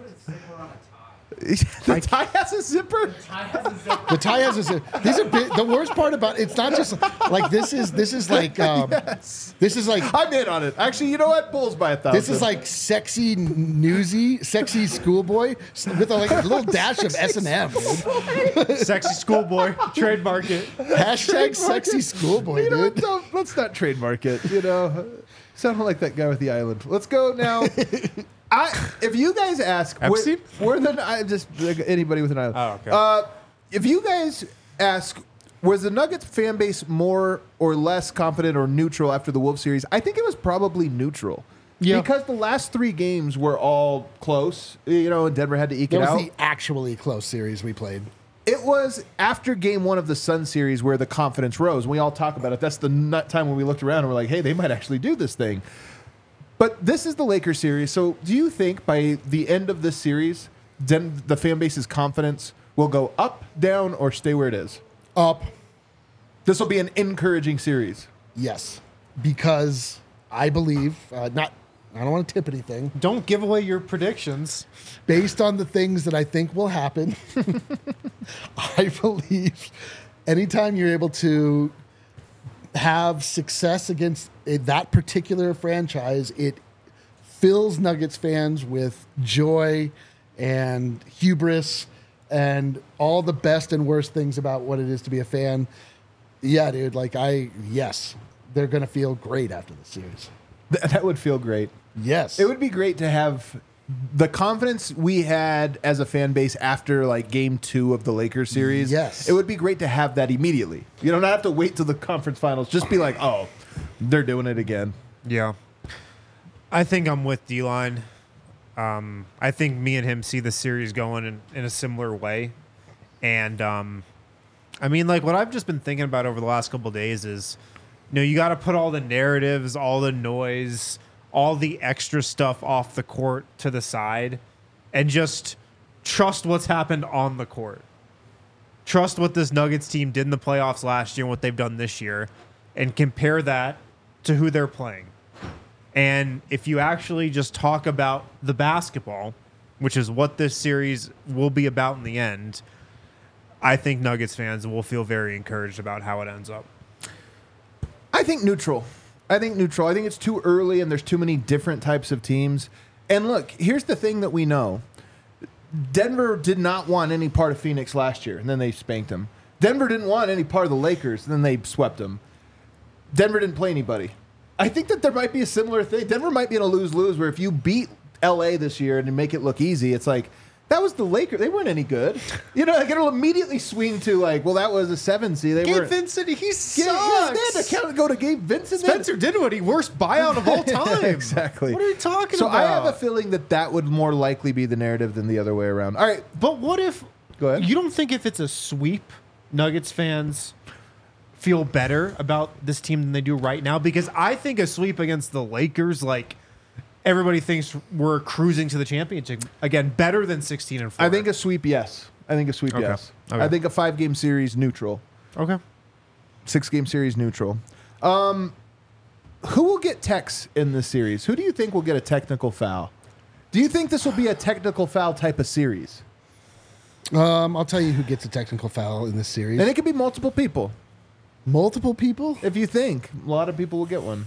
the tie has a zipper. The tie has a zip. These are big, the worst part about it's not just like this is this is like um, Yes. this is like I'm in on it. Actually, you know what? Bulls by a thousand. this is like sexy newsy, sexy schoolboy with a, like a little dash of S and M. Sexy schoolboy, trademark it. Hashtag sexy schoolboy, You know what? dude. Don't, let's not trademark it. You know, sounding like that guy with the island. Let's go now. I, if you guys ask, Epstein? where, where the I just like anybody with an island. Oh, okay. Uh, if you guys ask, was the Nuggets fan base more or less confident or neutral after the Wolves series? I think it was probably neutral. Yeah. Because the last three games were all close. You know, and Denver had to eke That it was out. the actually close series we played. it was after game one of the Sun series where the confidence rose. We all talk about it. That's the nut time when we looked around and we're like, hey, they might actually do this thing. But this is the Lakers series. So do you think by the end of this series, Den- the fan base's confidence will go up, down, or stay where it is? Up. This will be an encouraging series. Yes. Because I believe, uh, not, I don't want to tip anything. Don't give away your predictions. Based on the things that I think will happen, I believe anytime you're able to have success against a, that particular franchise, it fills Nuggets fans with joy and hubris and all the best and worst things about what it is to be a fan. Yeah, dude, like I, yes, they're going to feel great after the series. Th- that would feel great. Yes. It would be great to have the confidence we had as a fan base after like game two of the Lakers series. Yes. It would be great to have that immediately. You don't have to wait till the conference finals. Just be like, oh, they're doing it again. Yeah. I think I'm with D-Line. Um, I think me and him see the series going in, in a similar way. And, um, I mean, like, what I've just been thinking about over the last couple of days is, you know, you got to put all the narratives, all the noise, all the extra stuff off the court to the side and just trust what's happened on the court. Trust what this Nuggets team did in the playoffs last year and what they've done this year and compare that to who they're playing. And if you actually just talk about the basketball, which is what this series will be about in the end, I think Nuggets fans will feel very encouraged about how it ends up. I think neutral. I think neutral. I think it's too early and there's too many different types of teams. And look, here's the thing that we know. Denver did not want any part of Phoenix last year, and then they spanked them. Denver didn't want any part of the Lakers, and then they swept them. Denver didn't play anybody. I think that there might be a similar thing. Denver might be in a lose-lose where if you beat L A this year and make it look easy, it's like, that was the Lakers. They weren't any good. You know, like it'll immediately swing to like, well, that was a seven seed. They Gabe were Vincent, he sucks. Yeah, yeah, they had to count, go to Gabe Vincent. Spencer Dinwiddie, worst buyout of all time. Exactly. What are you talking so about? I have a feeling that that would more likely be the narrative than the other way around. All right. But what if... Go ahead. You don't think if it's a sweep, Nuggets fans feel better about this team than they do right now? Because I think a sweep against the Lakers, like... Everybody thinks we're cruising to the championship again, better than sixteen and four. I think a sweep, yes. I think a sweep, Okay. yes. Okay. I think a five-game series neutral, okay. six-game series neutral. Um, who will get techs in this series? Who do you think will get a technical foul? Do you think this will be a technical foul type of series? Um, I'll tell you who gets a technical foul in this series. And it could be multiple people. Multiple people? If you think, a lot of people will get one.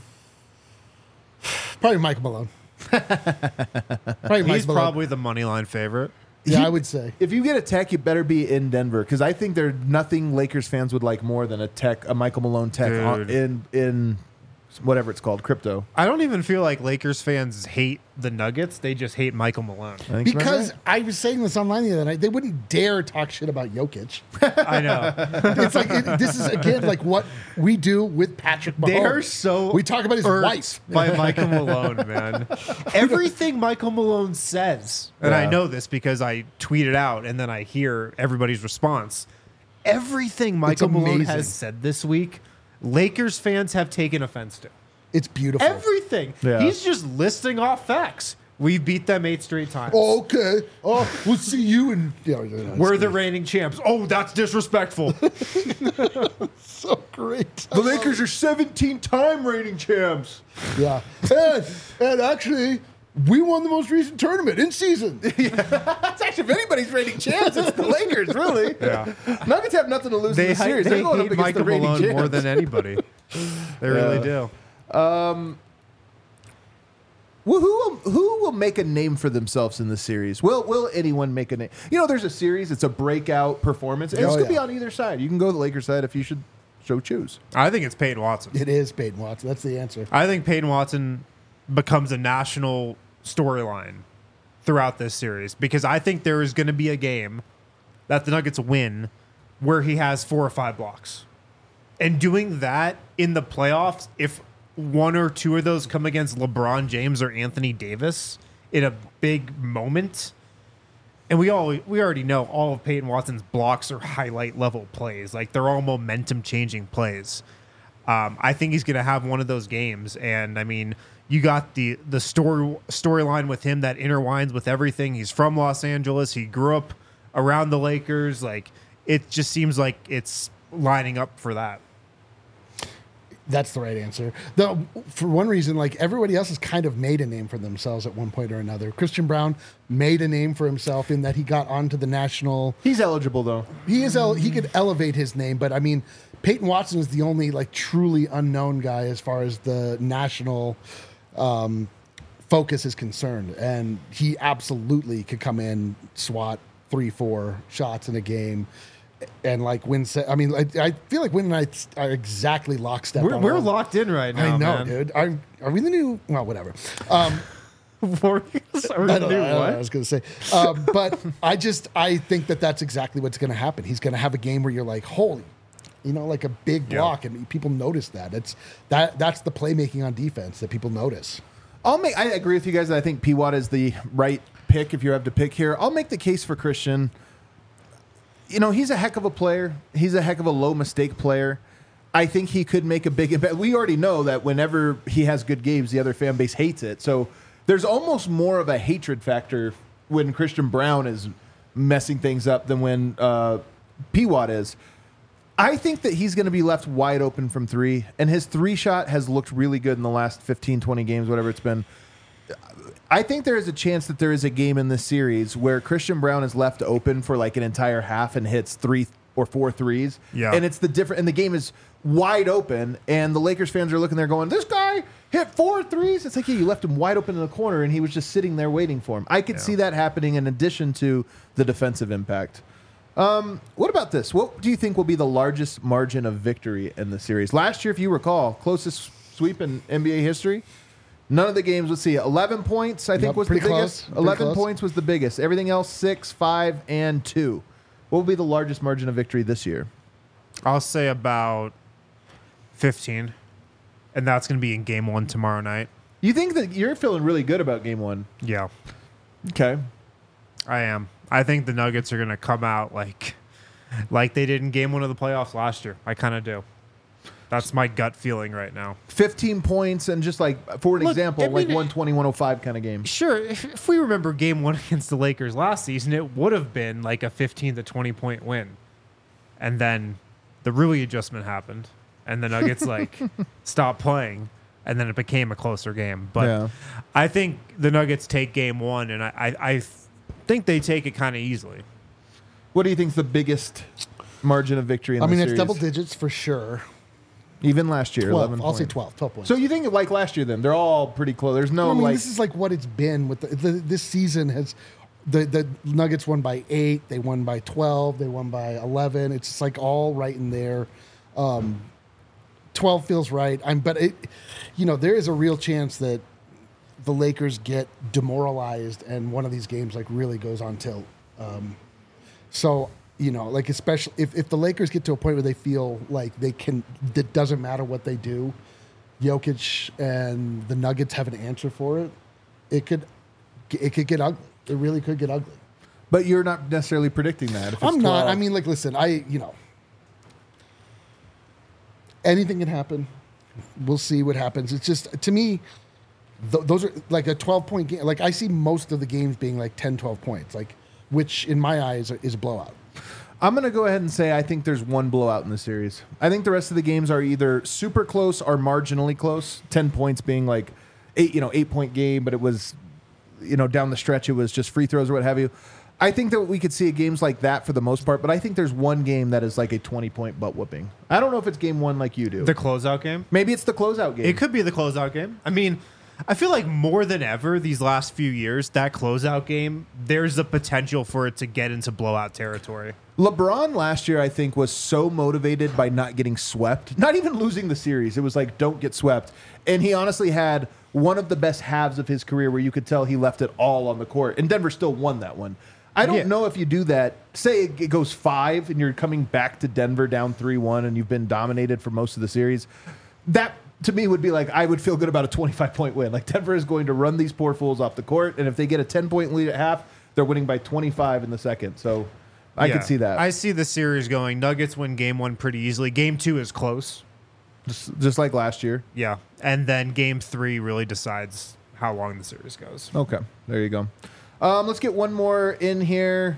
Probably Michael Malone. Probably Mike He's Malone. probably the money line favorite. Yeah, He- I would say. If you get a tech, you better be in Denver because I think there's nothing Lakers fans would like more than a tech, a Michael Malone tech on, Dude. in in whatever it's called, crypto. I don't even feel like Lakers fans hate the Nuggets. They just hate Michael Malone. I think so, Because right? I was saying this online the other night, they wouldn't dare talk shit about Jokic. I know. It's like it, this is again like what we do with Patrick Mahomes. They are so we talk about his irked wife. by Michael Malone, man. Everything Michael Malone says, and I Yeah. know this because I tweet it out and then I hear everybody's response. Everything Michael Malone amazing. has said this week, Lakers fans have taken offense to. It's beautiful. Everything. Yeah. He's just listing off facts. We beat them eight straight times. Oh, okay. Oh, we'll see you in. Yeah, yeah, yeah, We're it's the reigning champs. Oh, that's disrespectful. so great. The Lakers are seventeen-time reigning champs. Yeah, and, and actually, we won the most recent tournament in season. That's actually, if anybody's reigning champs, it's the Lakers, really. Yeah. Nuggets have nothing to lose They, in the hi- series. they They're going up hate against Michael the reigning Malone champs. more than anybody. They really do. Well, who will, who will make a name for themselves in this series? Will will anyone make a name? You know, there's a series. It's a breakout performance. And Oh, this could yeah. be on either side. You can go the Lakers side if you should so choose. I think it's Peyton Watson. It is Peyton Watson. That's the answer. I think Peyton Watson becomes a national storyline throughout this series because I think there is going to be a game that the Nuggets win where he has four or five blocks. And doing that in the playoffs, if one or two of those come against LeBron James or Anthony Davis in a big moment, And we all we already know all of Peyton Watson's blocks are highlight level plays. Like they're all momentum changing plays. Um, I think he's going to have one of those games. And I mean, you got the the story storyline with him that intertwines with everything. He's from Los Angeles. He grew up around the Lakers. Like it just seems like it's lining up for that. That's the right answer. The, for one reason, like everybody else has kind of made a name for themselves at one point or another. Christian Braun made a name for himself in that he got onto the national. He's eligible though. He is. El- he could elevate his name, but I mean, Peyton Watson is the only like truly unknown guy as far as the national um, focus is concerned, and he absolutely could come in, swat three, four shots in a game. And like win, se- I mean, I, I feel like Win and I are exactly lockstep. We're, on we're all- locked in right now. I know, man. dude. Are, are we the new? Well, whatever. Um, Warriors are I the don't new know, I don't know what? what I was going to say, um, but I just I think that that's exactly what's going to happen. He's going to have a game where you're like, holy, you know, like a big Yeah. block, and people notice that. It's that that's the playmaking on defense that people notice. I'll make. I agree with you guys. I think P. Watt is the right pick if you have to pick here. I'll make the case for Christian. You know, he's a heck of a player. He's a heck of a low mistake player. I think he could make a big impact. We already know that whenever he has good games, the other fan base hates it. So there's almost more of a hatred factor when Christian Braun is messing things up than when uh, P. Watt is. I think that he's going to be left wide open from three, and his three shot has looked really good in the last fifteen, twenty games, whatever it's been. I think there is a chance that there is a game in this series where Christian Braun is left open for like an entire half and hits three or four threes. Yeah. And it's the different, and the game is wide open, and the Lakers fans are looking there going, this guy hit four threes. It's like, yeah, you left him wide open in the corner, and he was just sitting there waiting for him. I could Yeah. see that happening in addition to the defensive impact. Um, what about this? What do you think will be the largest margin of victory in the series? Last year, if you recall, closest sweep in N B A history. None of the games, let's see, eleven points, I think Yep, was the pretty biggest. close, pretty eleven close. points was the biggest. Everything else, six, five, and two. What will be the largest margin of victory this year? I'll say about fifteen, and that's going to be in game one tomorrow night. You think that you're feeling really good about game one? Yeah, Okay. I am. I think the Nuggets are going to come out like like they did in game one of the playoffs last year. I kind of do. That's my gut feeling right now. fifteen points, and just like, for an Look, example, I like mean, one twenty, one oh five kind of game. Sure, if, if we remember game one against the Lakers last season, it would have been like a fifteen to twenty point win. And then the Rui adjustment happened, and the Nuggets like stopped playing, and then it became a closer game. But Yeah. I think the Nuggets take game one, and I, I, I think they take it kind of easily. What do you think is the biggest margin of victory in I the mean, series? it's double digits for sure. Even last year, twelve. eleven I'll say points. twelve. twelve points. So you think like last year then? They're all pretty close. There's no I mean, like... this is like what it's been with the, the, this season. Has the the Nuggets won by eight? They won by twelve. They won by eleven. It's just like all right in there. Um, twelve feels right. I'm, but it, you know, there is a real chance that the Lakers get demoralized and one of these games like really goes on tilt. Um, so. You know, like especially if, if the Lakers get to a point where they feel like they can, it doesn't matter what they do, Jokic and the Nuggets have an answer for it. It could, it could get ugly. It really could get ugly. But you're not necessarily predicting that. If it's I'm not. twelve. I mean, like, listen, I, you know, anything can happen. We'll see what happens. It's just, to me, th- those are like a twelve point game. Like, I see most of the games being like ten, twelve points, like, which in my eyes is a blowout. I'm going to go ahead and say I think there's one blowout in the series. I think the rest of the games are either super close or marginally close. ten points being like eight, you know, eight point game, but it was, you know, down the stretch, it was just free throws or what have you. I think that we could see games like that for the most part, but I think there's one game that is like a twenty point butt whooping. I don't know if it's game one like you do. The closeout game? Maybe it's the closeout game. It could be the closeout game. I mean, I feel like more than ever these last few years, that closeout game, there's the potential for it to get into blowout territory. LeBron last year, I think, was so motivated by not getting swept, not even losing the series. It was like, don't get swept. And he honestly had one of the best halves of his career where you could tell he left it all on the court. And Denver still won that one. I don't Yeah. know if you do that. Say it goes five and you're coming back to Denver down three one and you've been dominated for most of the series. That, to me, would be like, I would feel good about a twenty-five point win. Like, Denver is going to run these poor fools off the court. And if they get a ten point lead at half, they're winning by twenty-five in the second. So I Yeah. could see that. I see the series going. Nuggets win game one pretty easily. Game two is close. just, just like last year. Yeah. And then game three really decides how long the series goes. Okay, there you go. Um, let's get one more in here.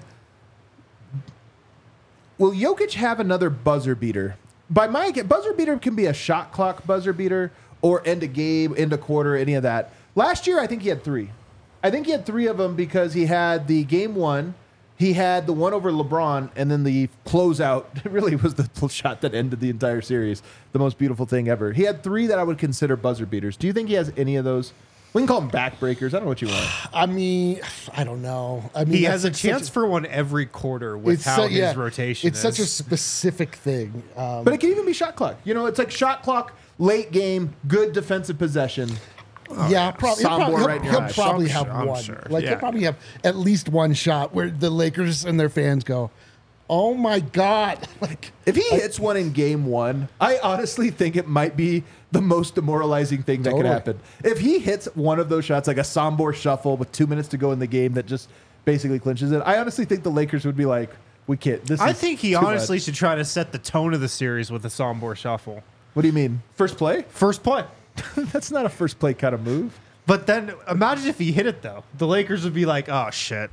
Will Jokic have another buzzer beater? By my buzzer beater can be a shot clock buzzer beater or end a game, end a quarter, any of that. Last year, I think he had three. I think he had three of them because he had the game one, he had the one over LeBron, and then the closeout really was the shot that ended the entire series. The most beautiful thing ever. He had three that I would consider buzzer beaters. Do you think he has any of those? We can call them backbreakers. I don't know what you want. I mean, I don't know. I mean, He that's has a like chance such for one every quarter with how so- his yeah, rotation It's is. such a specific thing. Um, But it can even be shot clock. You know, it's like shot clock, late game, good defensive possession. yeah, probably. He'll, Soundboard probably, he'll, right in your he'll eyes. probably I'm have sure- I'm one. sure, Like yeah. he'll probably have at least one shot where the Lakers and their fans go, "Oh my god!" Like If he hits one in game one, I honestly think it might be the most demoralizing thing that could Totally. happen. If he hits one of those shots, like a Sombor shuffle with two minutes to go in the game that just basically clinches it, I honestly think the Lakers would be like, we can't. This I is think he too honestly much." should try to set the tone of the series with a Sombor shuffle. What do you mean? First play? First play. That's not a first play kind of move. But then imagine if he hit it, though. The Lakers would be like, oh, shit.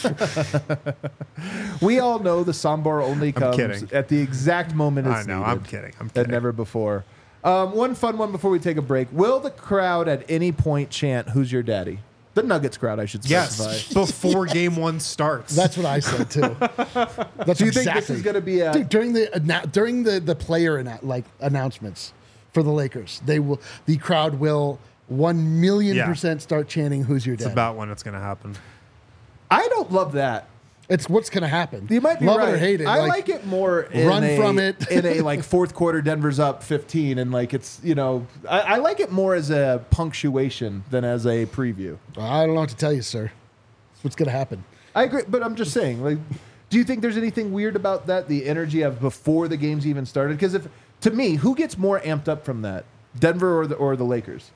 We all know the Sombor only comes kidding. at the exact moment it's I know. needed. I'm kidding. I'm And kidding. never before. Um, one fun one before we take a break. Will the crowd at any point chant, "Who's your daddy"? The Nuggets crowd, I should specify. Yes. Before game one starts. that's what I said too. That's Do you think exactly. this is going to be a... Dude, during the annou- during the the player annou- like announcements for the Lakers, they will the crowd will one million Yeah. percent start chanting, "Who's your It's dad?" about when it's going to happen. I don't love that. It's what's going to happen. You might be love right. it or hate it. I like, it more. In run a, from it. in a like fourth quarter, Denver's up fifteen, and like it's you know I, I like it more as a punctuation than as a preview. I don't know what to tell you, sir. That's what's going to happen. I agree, but I'm just saying. Like, do you think there's anything weird about that? The energy of before the game's even started? Because if to me, who gets more amped up from that, Denver or the or the Lakers?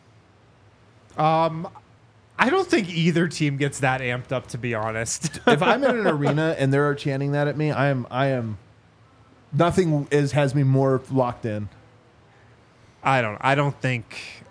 I don't think either team gets that amped up, to be honest. If I'm in an arena and they're chanting that at me, I am I am. Nothing is has me more locked in. I don't. I don't think.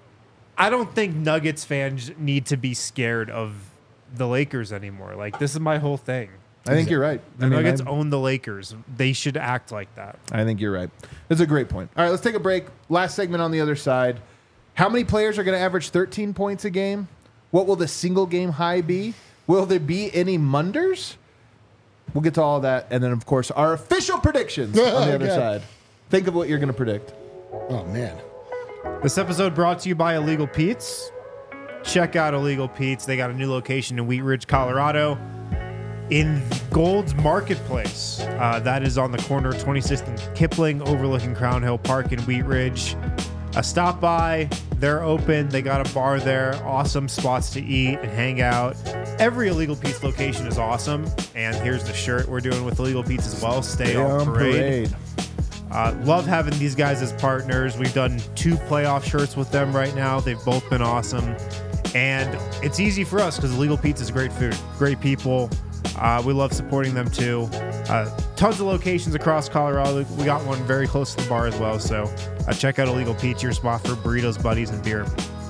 I don't think Nuggets fans need to be scared of the Lakers anymore. Like, this is my whole thing. I think you're right. The I mean, Nuggets I'm- own the Lakers. They should act like that. I think you're right. That's a great point. All right, let's take a break. Last segment on the other side. How many players are going to average thirteen points a game? What will the single game high be? Will there be any Munders? We'll get to all that. And then, of course, our official predictions on the other Okay. side. Think of what you're going to predict. Oh man. This episode brought to you by Illegal Pete's. Check out Illegal Pete's. They got a new location in Wheat Ridge, Colorado, in Gold's Marketplace. Uh, that is on the corner of twenty-sixth and Kipling, overlooking Crown Hill Park in Wheat Ridge. Uh, stop by. They're open. They got a bar there. Awesome spots to eat and hang out. Every Illegal Pete's location is awesome. And here's the shirt we're doing with Illegal Pete's as well. Stay on parade. Uh, love having these guys as partners. We've done two playoff shirts with them right now. They've both been awesome. And it's easy for us because Illegal Pete's is great food, great people. Uh, we love supporting them too. Uh, tons of locations across Colorado. We got one very close to the bar as well. So uh, check out Illegal Pete's, your spot for burritos, buddies, and beer.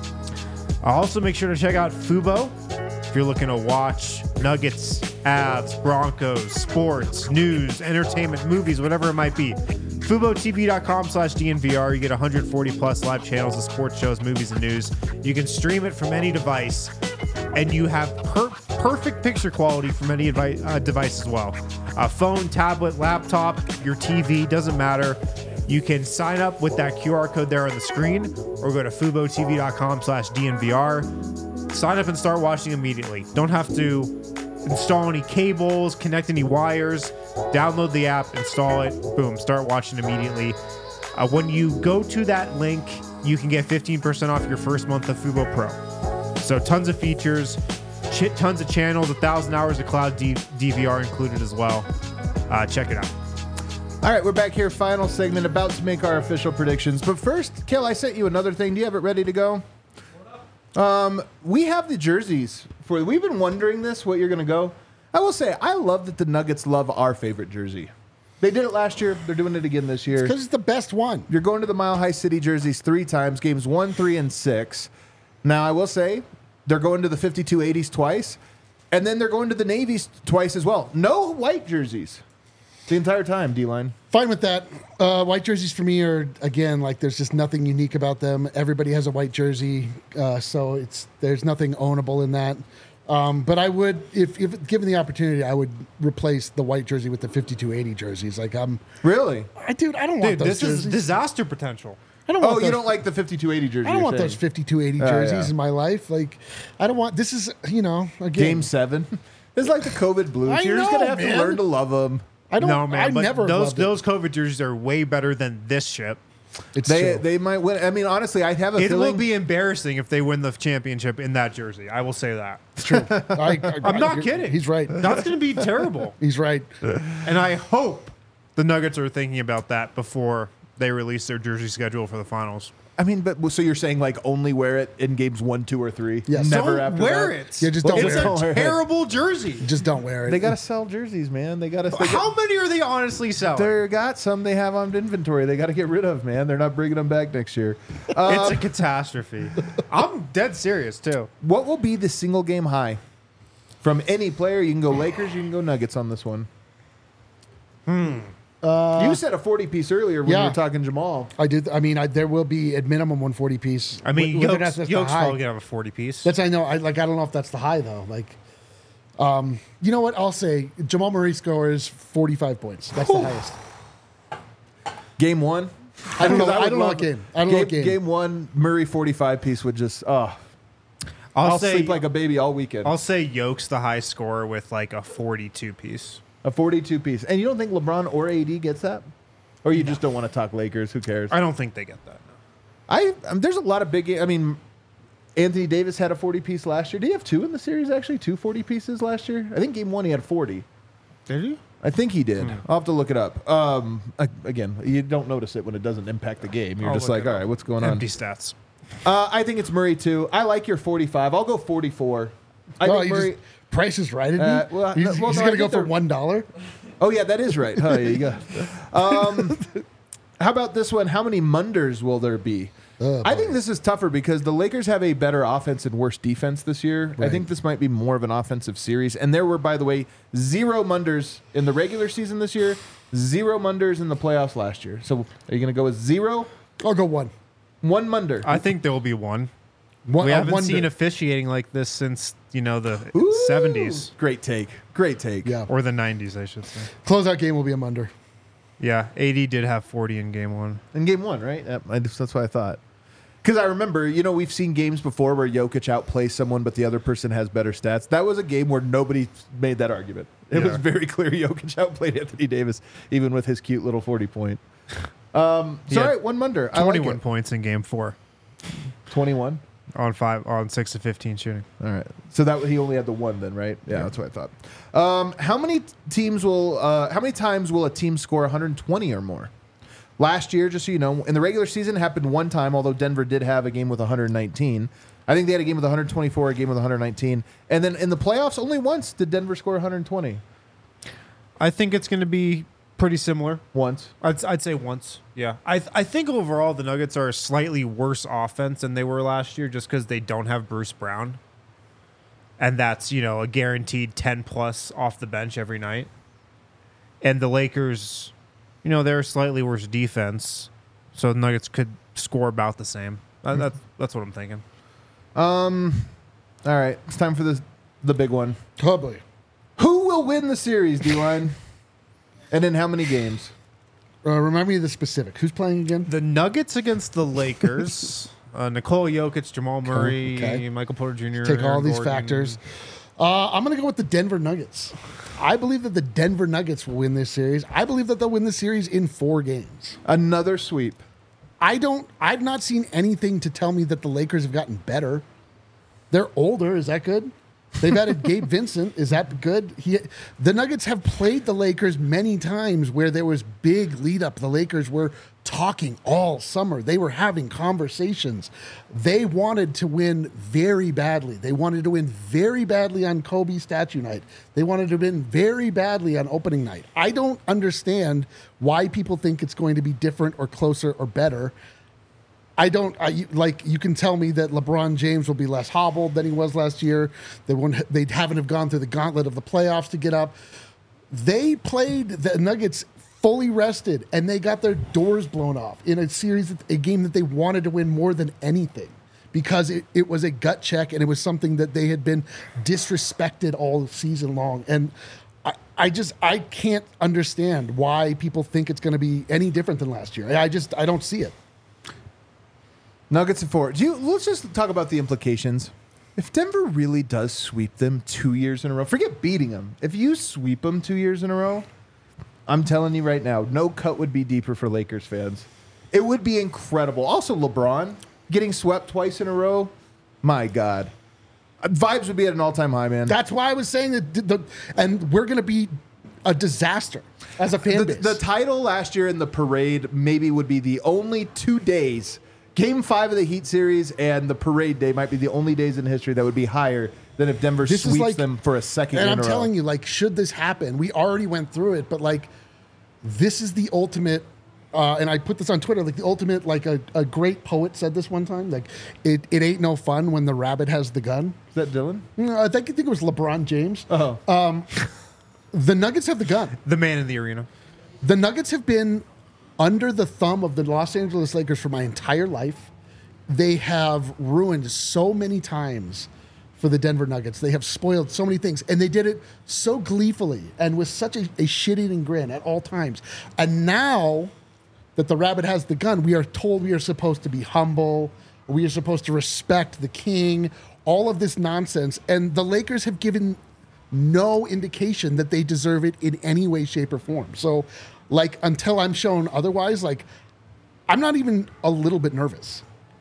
Uh, also, make sure to check out Fubo if you're looking to watch Nuggets, Avs, Broncos, sports, news, entertainment, movies, whatever it might be. FuboTV.com slash DNVR. You get one hundred forty plus live channels of sports shows, movies, and news. You can stream it from any device, and you have per- perfect picture quality from any device, uh, device as well. Uh, phone, tablet, laptop, your T V, doesn't matter. You can sign up with that Q R code there on the screen, or go to FuboTV.com slash DNVR. Sign up and start watching immediately. Don't have to install any cables, connect any wires. Download the app, install it, boom, start watching immediately. Uh, when you go to that link, you can get fifteen percent off your first month of Fubo Pro. So tons of features, ch- tons of channels, a thousand hours of cloud D- DVR included as well. Uh, check it out. All right, we're back here. Final segment, about to make our official predictions. But first, Kel, I sent you another thing. Do you have it ready to go? We have the jerseys for. We've been wondering this. What you're going to go? I will say, I love that the Nuggets love our favorite jersey. They did it last year. They're doing it again this year. Because it's the best one. You're going to the Mile High City jerseys three times, games one, three, and six. Now, I will say, they're going to the fifty-two eighties twice, and then they're going to the Navies twice as well. No white jerseys the entire time, D-Line. Fine with that. Uh, white jerseys for me are, again, like there's just nothing unique about them. Everybody has a white jersey, uh, so it's there's nothing ownable in that. Um, but I would, if, if given the opportunity, I would replace the white jersey with the fifty-two eighty jerseys. Like I'm, Really? I dude, I don't Dude, want those this jerseys. is disaster potential. I don't Oh, want you those, don't like the fifty-two eighty jersey? I don't you're want saying. those fifty-two eighty Oh, jerseys yeah. in my life. Like, I don't want. This is, you know, again. Game seven. It's like the COVID blues. I You're just going to know, have man. to learn to love them. I don't. No, man. I but never those loved it. those COVID jerseys are way better than this shit. It's They true. they might win. I mean, honestly, I have a It feeling. will be embarrassing if they win the championship in that jersey. I will say that. It's true. I, I, I'm not you're- kidding. He's right. That's going to be terrible. He's right. And I hope the Nuggets are thinking about that before they release their jersey schedule for the finals. I mean, but so you're saying like only wear it in games one, two, or three? Yes. Never Don't after wear that? it. Yeah, just don't it's wear a it. Don't wear it. terrible jersey. Just don't wear it. They got to sell jerseys, man. They got to. They How many are they honestly selling? They got some they have on inventory. They got to get rid of, man. They're not bringing them back next year. Uh, It's a catastrophe. I'm dead serious too. what will be the single game high from any player? You can go Lakers. You can go Nuggets on this one. Hmm. you said a forty piece earlier when yeah. you were talking Jamal. I did. I mean, I, there will be at minimum one forty piece. I mean, Whether or not Yoke's, that's the Yoke's high. probably gonna have a forty piece. That's I know. I like. I don't know if that's the high though. Like, um, you know what? I'll say Jamal Murray scores forty five points. That's the highest. Game one. I don't know. Because I, would don't know love- what game. I don't know what game. Game one, Murray forty-five piece would just oh, I'll, I'll say sleep like a baby all weekend. I'll say Yoke's the high scorer with like a forty-two piece. a forty-two piece, and you don't think LeBron or A D gets that, or you just don't want to talk Lakers? Who cares? I don't think they get that. No. I um, there's a lot of big. I mean, Anthony Davis had a forty piece last year. Did he have two in the series? Actually, two forty pieces last year. I think game one he had forty. Did he? I think he did. Hmm. I'll have to look it up. Um, I, again, you don't notice it when it doesn't impact the game. You're I'll just look like, it all up. right, what's going Empty on? stats. Uh, I think it's Murray too. I like your forty-five. I'll go forty-four. I Oh, think you Murray. just, Price is right. Isn't Uh, he? well, he's no, well, he's no, I gonna go think for they're- one dollar. Oh yeah, that is right. Oh, yeah, you go. Um, how about this one? How many Munders will there be? Oh, I boy. think this is tougher because the Lakers have a better offense and worse defense this year. I Right. think this might be more of an offensive series. And there were, by the way, zero Munders in the regular season this year, zero Munders in the playoffs last year. So are you going to go with zero? I'll go one. One Munder. I think there will be one. One. We uh, haven't one seen to- officiating like this since you know the Ooh, seventies Great take. Great take. Yeah. or the nineties, I should say. Closeout game will be a Munder. Yeah, A D did have forty in game one. In game one, right? Yep, I just, that's what I thought. Because I remember, you know, we've seen games before where Jokic outplays someone, but the other person has better stats. That was a game where nobody made that argument. It Yeah. was very clear Jokic outplayed Anthony Davis, even with his cute little forty point. Um, so, Yeah. all right, one Munder. I like Twenty-one it. points in game four twenty-one. on five on six to fifteen shooting. All right. So that he only had the one then, right? Yeah, that's what I thought. Um, how many teams will? Uh, how many times will a team score one hundred twenty or more? Last year, just so you know, in the regular season, it happened one time. Although Denver did have a game with one hundred nineteen, I think they had a game with one hundred twenty-four, a game with one hundred nineteen, and then in the playoffs, only once did Denver score one hundred twenty. I think it's going to be pretty similar. Once. I'd, I'd say once. Yeah. I th- I think overall the Nuggets are a slightly worse offense than they were last year just because they don't have Bruce Brown. And that's, you know, a guaranteed ten plus off the bench every night. And the Lakers, you know, they're a slightly worse defense. So the Nuggets could score about the same. That, that's, that's what I'm thinking. All right, it's time for the the big one. Oh boy. Who will win the series, D-Line? And in how many games? Uh, remind me of the specific. Who's playing again? The Nuggets against the Lakers. uh, Nikola Jokic, Jamal Murray, okay. Michael Porter Junior Take all Aaron these Gordon. factors. Uh, I'm going to go with the Denver Nuggets. I believe that the Denver Nuggets will win this series. I believe that they'll win the series in four games. Another sweep. I don't. I've not seen anything to tell me that the Lakers have gotten better. They're older. Is that good? They've added Gabe Vincent. Is that good? He, the Nuggets have played the Lakers many times where there was big lead up. The Lakers were talking all summer. They were having conversations. They wanted to win very badly. They wanted to win very badly on Kobe statue night. They wanted to win very badly on opening night. I don't understand why people think it's going to be different or closer or better. I don't I, like. You can tell me that LeBron James will be less hobbled than he was last year. They won't. They haven't have gone through the gauntlet of the playoffs to get up. They played the Nuggets fully rested, and they got their doors blown off in a series, a game that they wanted to win more than anything, because it, it was a gut check and it was something that they had been disrespected all season long. And I, I just I can't understand why people think it's going to be any different than last year. I just I don't see it. Nuggets and four. Do you, let's just talk about the implications. If Denver really does sweep them two years in a row, forget beating them. If you sweep them two years in a row, I'm telling you right now, no cut would be deeper for Lakers fans. It would be incredible. Also, LeBron getting swept twice in a row, my God. Vibes would be at an all-time high, man. That's why I was saying that, the, the, and we're going to be a disaster as a fan the, base. the title last year in the parade maybe would be the only two days. Game five of the Heat series and the parade day might be the only days in history that would be higher than if Denver This is sweeps like- them for a second And in I'm a row. telling you, like, should this happen, we already went through it, but like, this is the ultimate. Uh, and I put this on Twitter, like the ultimate, like a, a great poet said this one time, like, it, it ain't no fun when the rabbit has the gun. Is that Dylan? No, I think I think it was LeBron James. Oh. The Nuggets have the gun. The man in the arena. The Nuggets have been under the thumb of the Los Angeles Lakers for my entire life. They have ruined so many times for the Denver Nuggets. They have spoiled so many things, and they did it so gleefully and with such a, a shit-eating grin at all times. And now that the rabbit has the gun, we are told we are supposed to be humble, we are supposed to respect the king, all of this nonsense. And the Lakers have given no indication that they deserve it in any way, shape, or form. So, like, until I'm shown otherwise, like, I'm not even a little bit nervous.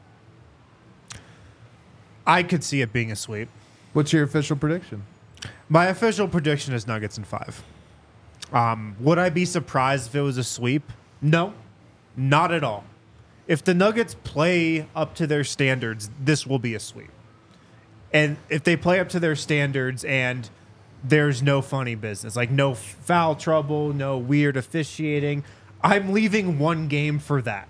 I could see it being a sweep. What's your official prediction? My official prediction is Nuggets in five. Um, would I be surprised if it was a sweep? No, not at all. If the Nuggets play up to their standards, this will be a sweep. And if they play up to their standards and there's no funny business, like no foul trouble, no weird officiating, I'm leaving one game for that.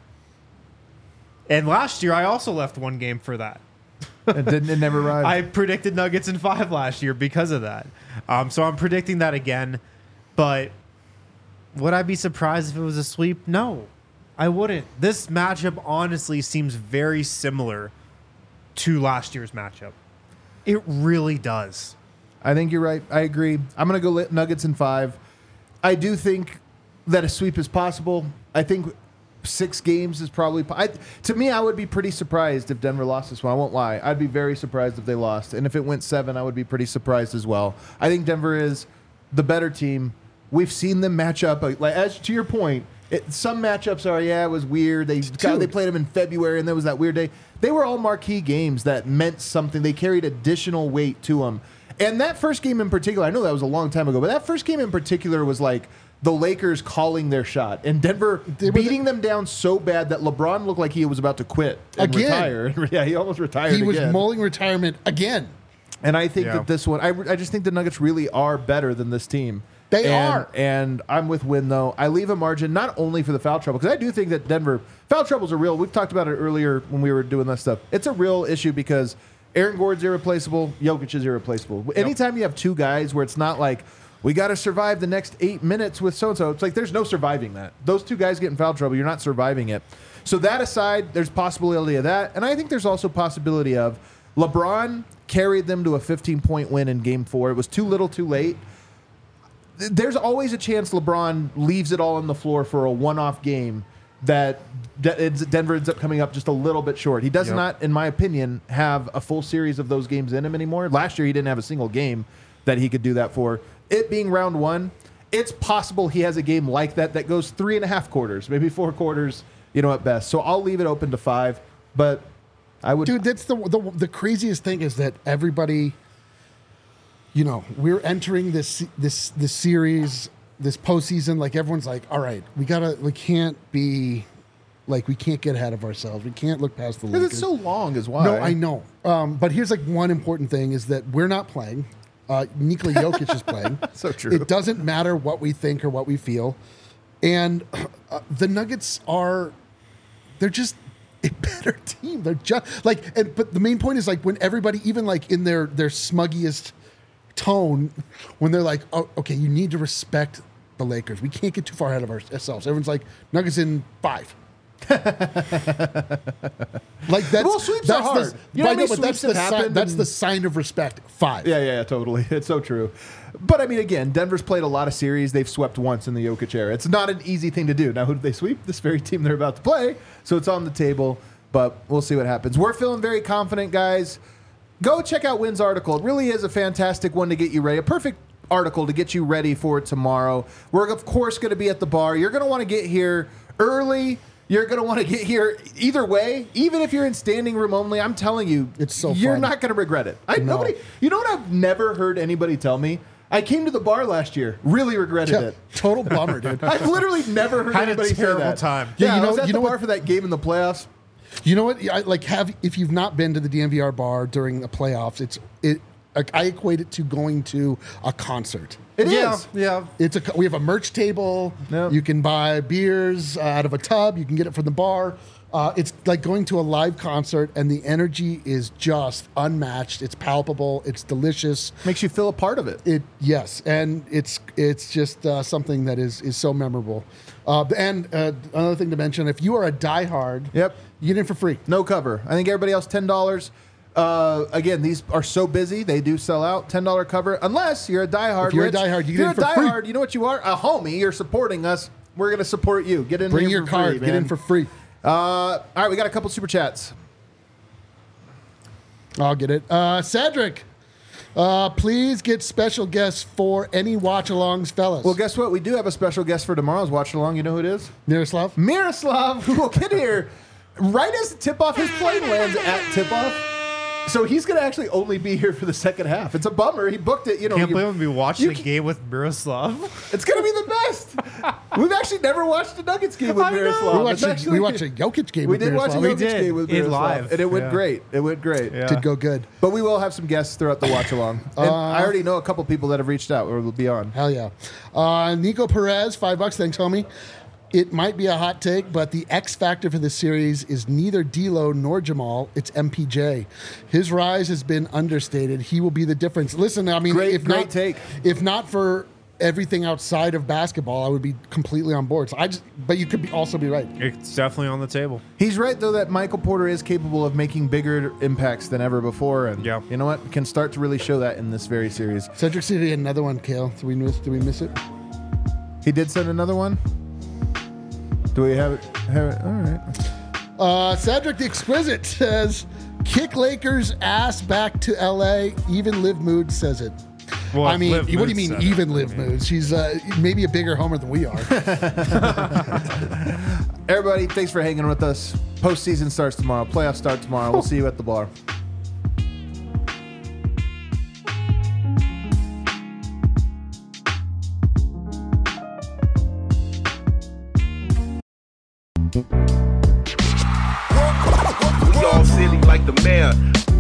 And last year, I also left one game for that. It didn't. It never arrived. I predicted Nuggets in five last year because of that. Um, so I'm predicting that again. But would I be surprised if it was a sweep? No, I wouldn't. This matchup honestly seems very similar to last year's matchup. It really does. I think you're right. I agree. I'm going to go Nuggets in five. I do think that a sweep is possible. I think six games is probably... I, to me, I would be pretty surprised if Denver lost this one. I won't lie. I'd be very surprised if they lost. And if it went seven, I would be pretty surprised as well. I think Denver is the better team. We've seen them match up. Like, as to your point, it, some matchups are, yeah, it was weird. They God, they played them in February, and there was that weird day. They were all marquee games that meant something. They carried additional weight to them. And that first game in particular, I know that was a long time ago, but that first game in particular was like the Lakers calling their shot and Denver beating them down so bad that LeBron looked like he was about to quit and again. retire. Yeah, he almost retired. He was again. mulling retirement again. And I think Yeah. that this one, I, I just think the Nuggets really are better than this team. They and, are. And I'm with Win, though. I leave a margin not only for the foul trouble, because I do think that Denver, foul troubles are real. We've talked about it earlier when we were doing that stuff. It's a real issue because Aaron Gordon's irreplaceable, Jokic is irreplaceable. Yep. Anytime you have two guys where it's not like, we got to survive the next eight minutes with so-and-so, it's like there's no surviving that. Those two guys get in foul trouble, you're not surviving it. So that aside, there's possibility of that. And I think there's also possibility of LeBron carried them to a fifteen-point win in game four. It was too little too late. There's always a chance LeBron leaves it all on the floor for a one-off game that Denver ends up coming up just a little bit short. He does Yep. not, in my opinion, have a full series of those games in him anymore. Last year, he didn't have a single game that he could do that for. It being round one, it's possible he has a game like that that goes three and a half quarters, maybe four quarters, you know, at best. So I'll leave it open to five, but I would... Dude, that's the, the the craziest thing is that everybody you know, we're entering this this this series, this postseason. Like everyone's like, all right, we gotta, we can't be, like we can't get ahead of ourselves. We can't look past the Because Lakers. it's so long is why. No, I know. Um, but here's like one important thing is that we're not playing. Uh, Nikola Jokic is playing. So true. It doesn't matter what we think or what we feel. And uh, the Nuggets are, they're just a better team. They're just like, and, but the main point is like when everybody, even like in their, their smuggiest tone, when they're like, oh, okay, you need to respect the Lakers. We can't get too far ahead of ourselves. Everyone's like, Nuggets in five. like that's Well, sweeps that's are hard. the, You know how but I many but that's sweeps the have sign, happened that's and- the sign of respect. Five. Yeah, yeah, yeah, totally. It's so true. But I mean, again, Denver's played a lot of series. They've swept once in the Jokic era. It's not an easy thing to do. Now, who did they sweep? This very team they're about to play. So it's on the table, but we'll see what happens. We're feeling very confident, guys. Go check out Wynn's article. It really is a fantastic one to get you ready. A perfect article to get you ready for tomorrow. We're, of course, going to be at the bar. You're going to want to get here early. You're going to want to get here either way, even if you're in standing room only. I'm telling you, It's so you're fun. not going to regret it. I, No. Nobody, you know what I've never heard anybody tell me? I came to the bar last year, really regretted Yeah, it. total bummer, dude. I've literally never heard Had a anybody say terrible that. time. Yeah, Yeah, you you know, I know- was at you the know bar what- for that game in the playoffs. You know what? I, like have if you've not been to the D M V R bar during the playoffs, it's it. Like I equate it to going to a concert. It is. Yeah, yeah. It's a we have a merch table. Yep. You can buy beers uh, out of a tub. You can get it from the bar. Uh, it's like going to a live concert, and the energy is just unmatched. It's palpable. It's delicious. Makes you feel a part of it. It yes, and it's it's just uh, something that is is so memorable. Uh, and uh, another thing to mention: if you are a diehard, Yep. you get in for free. No cover. I think everybody else ten dollars. Uh, again, these are so busy; they do sell out. Ten dollar cover, unless you're a diehard. If you're a Rich. diehard, you if get you're in for a free. diehard. You know what you are? A homie. You're supporting us. We're gonna support you. Get in. Bring here your for card. free, Get in man. for free. Uh, all right, we got a couple super chats. I'll get it. Uh, Cedric, uh, please get special guests for any watch-alongs, fellas. Well, guess what? We do have a special guest for tomorrow's watch along. You know who it is? Miroslav. Miroslav, who will get here right as the tip-off. His plane lands at tip-off. So he's going to actually only be here for the second half. It's a bummer. He booked it. You know, Can't you- believe I'm gonna be watching you a can- game with Miroslav. It's going to be the best. We've actually never watched a Nuggets game with I know. Miroslav. We It's watched, a, actually- we watched a Jokic game We with did watch a Miroslav. We Jokic did. game with In Miroslav, live. and it went Yeah. great. It went great. Yeah. Did go good. But we will have some guests throughout the watch along. And Uh, I already know a couple people that have reached out or will be on. Hell yeah. Uh, Nico Perez, five bucks. Thanks, homie. It might be a hot take, but the X factor for this series is neither D'Lo nor Jamal. It's M P J. His rise has been understated. He will be the difference. Listen, I mean, Great- if great not, take. if not for everything outside of basketball, I would be completely on board. So I just, but you could be, also be right. It's definitely on the table. He's right, though, that Michael Porter is capable of making bigger impacts than ever before. And Yeah. you know what? Can start to really show that in this very series. Cedric City, another one. Kale, did we miss? Did we miss it? He did send another one. Do we have it? Have it? All right. Uh, Cedric the Exquisite says, "Kick Lakers ass back to L A." Even Liv Mood says it. Well, I mean, Liv what do you Mood mean said it. even Liv Mood? She's uh, maybe a bigger homer than we are. Everybody, thanks for hanging with us. Postseason starts tomorrow. Playoffs start tomorrow. We'll see you at the bar. We all silly like the mayor.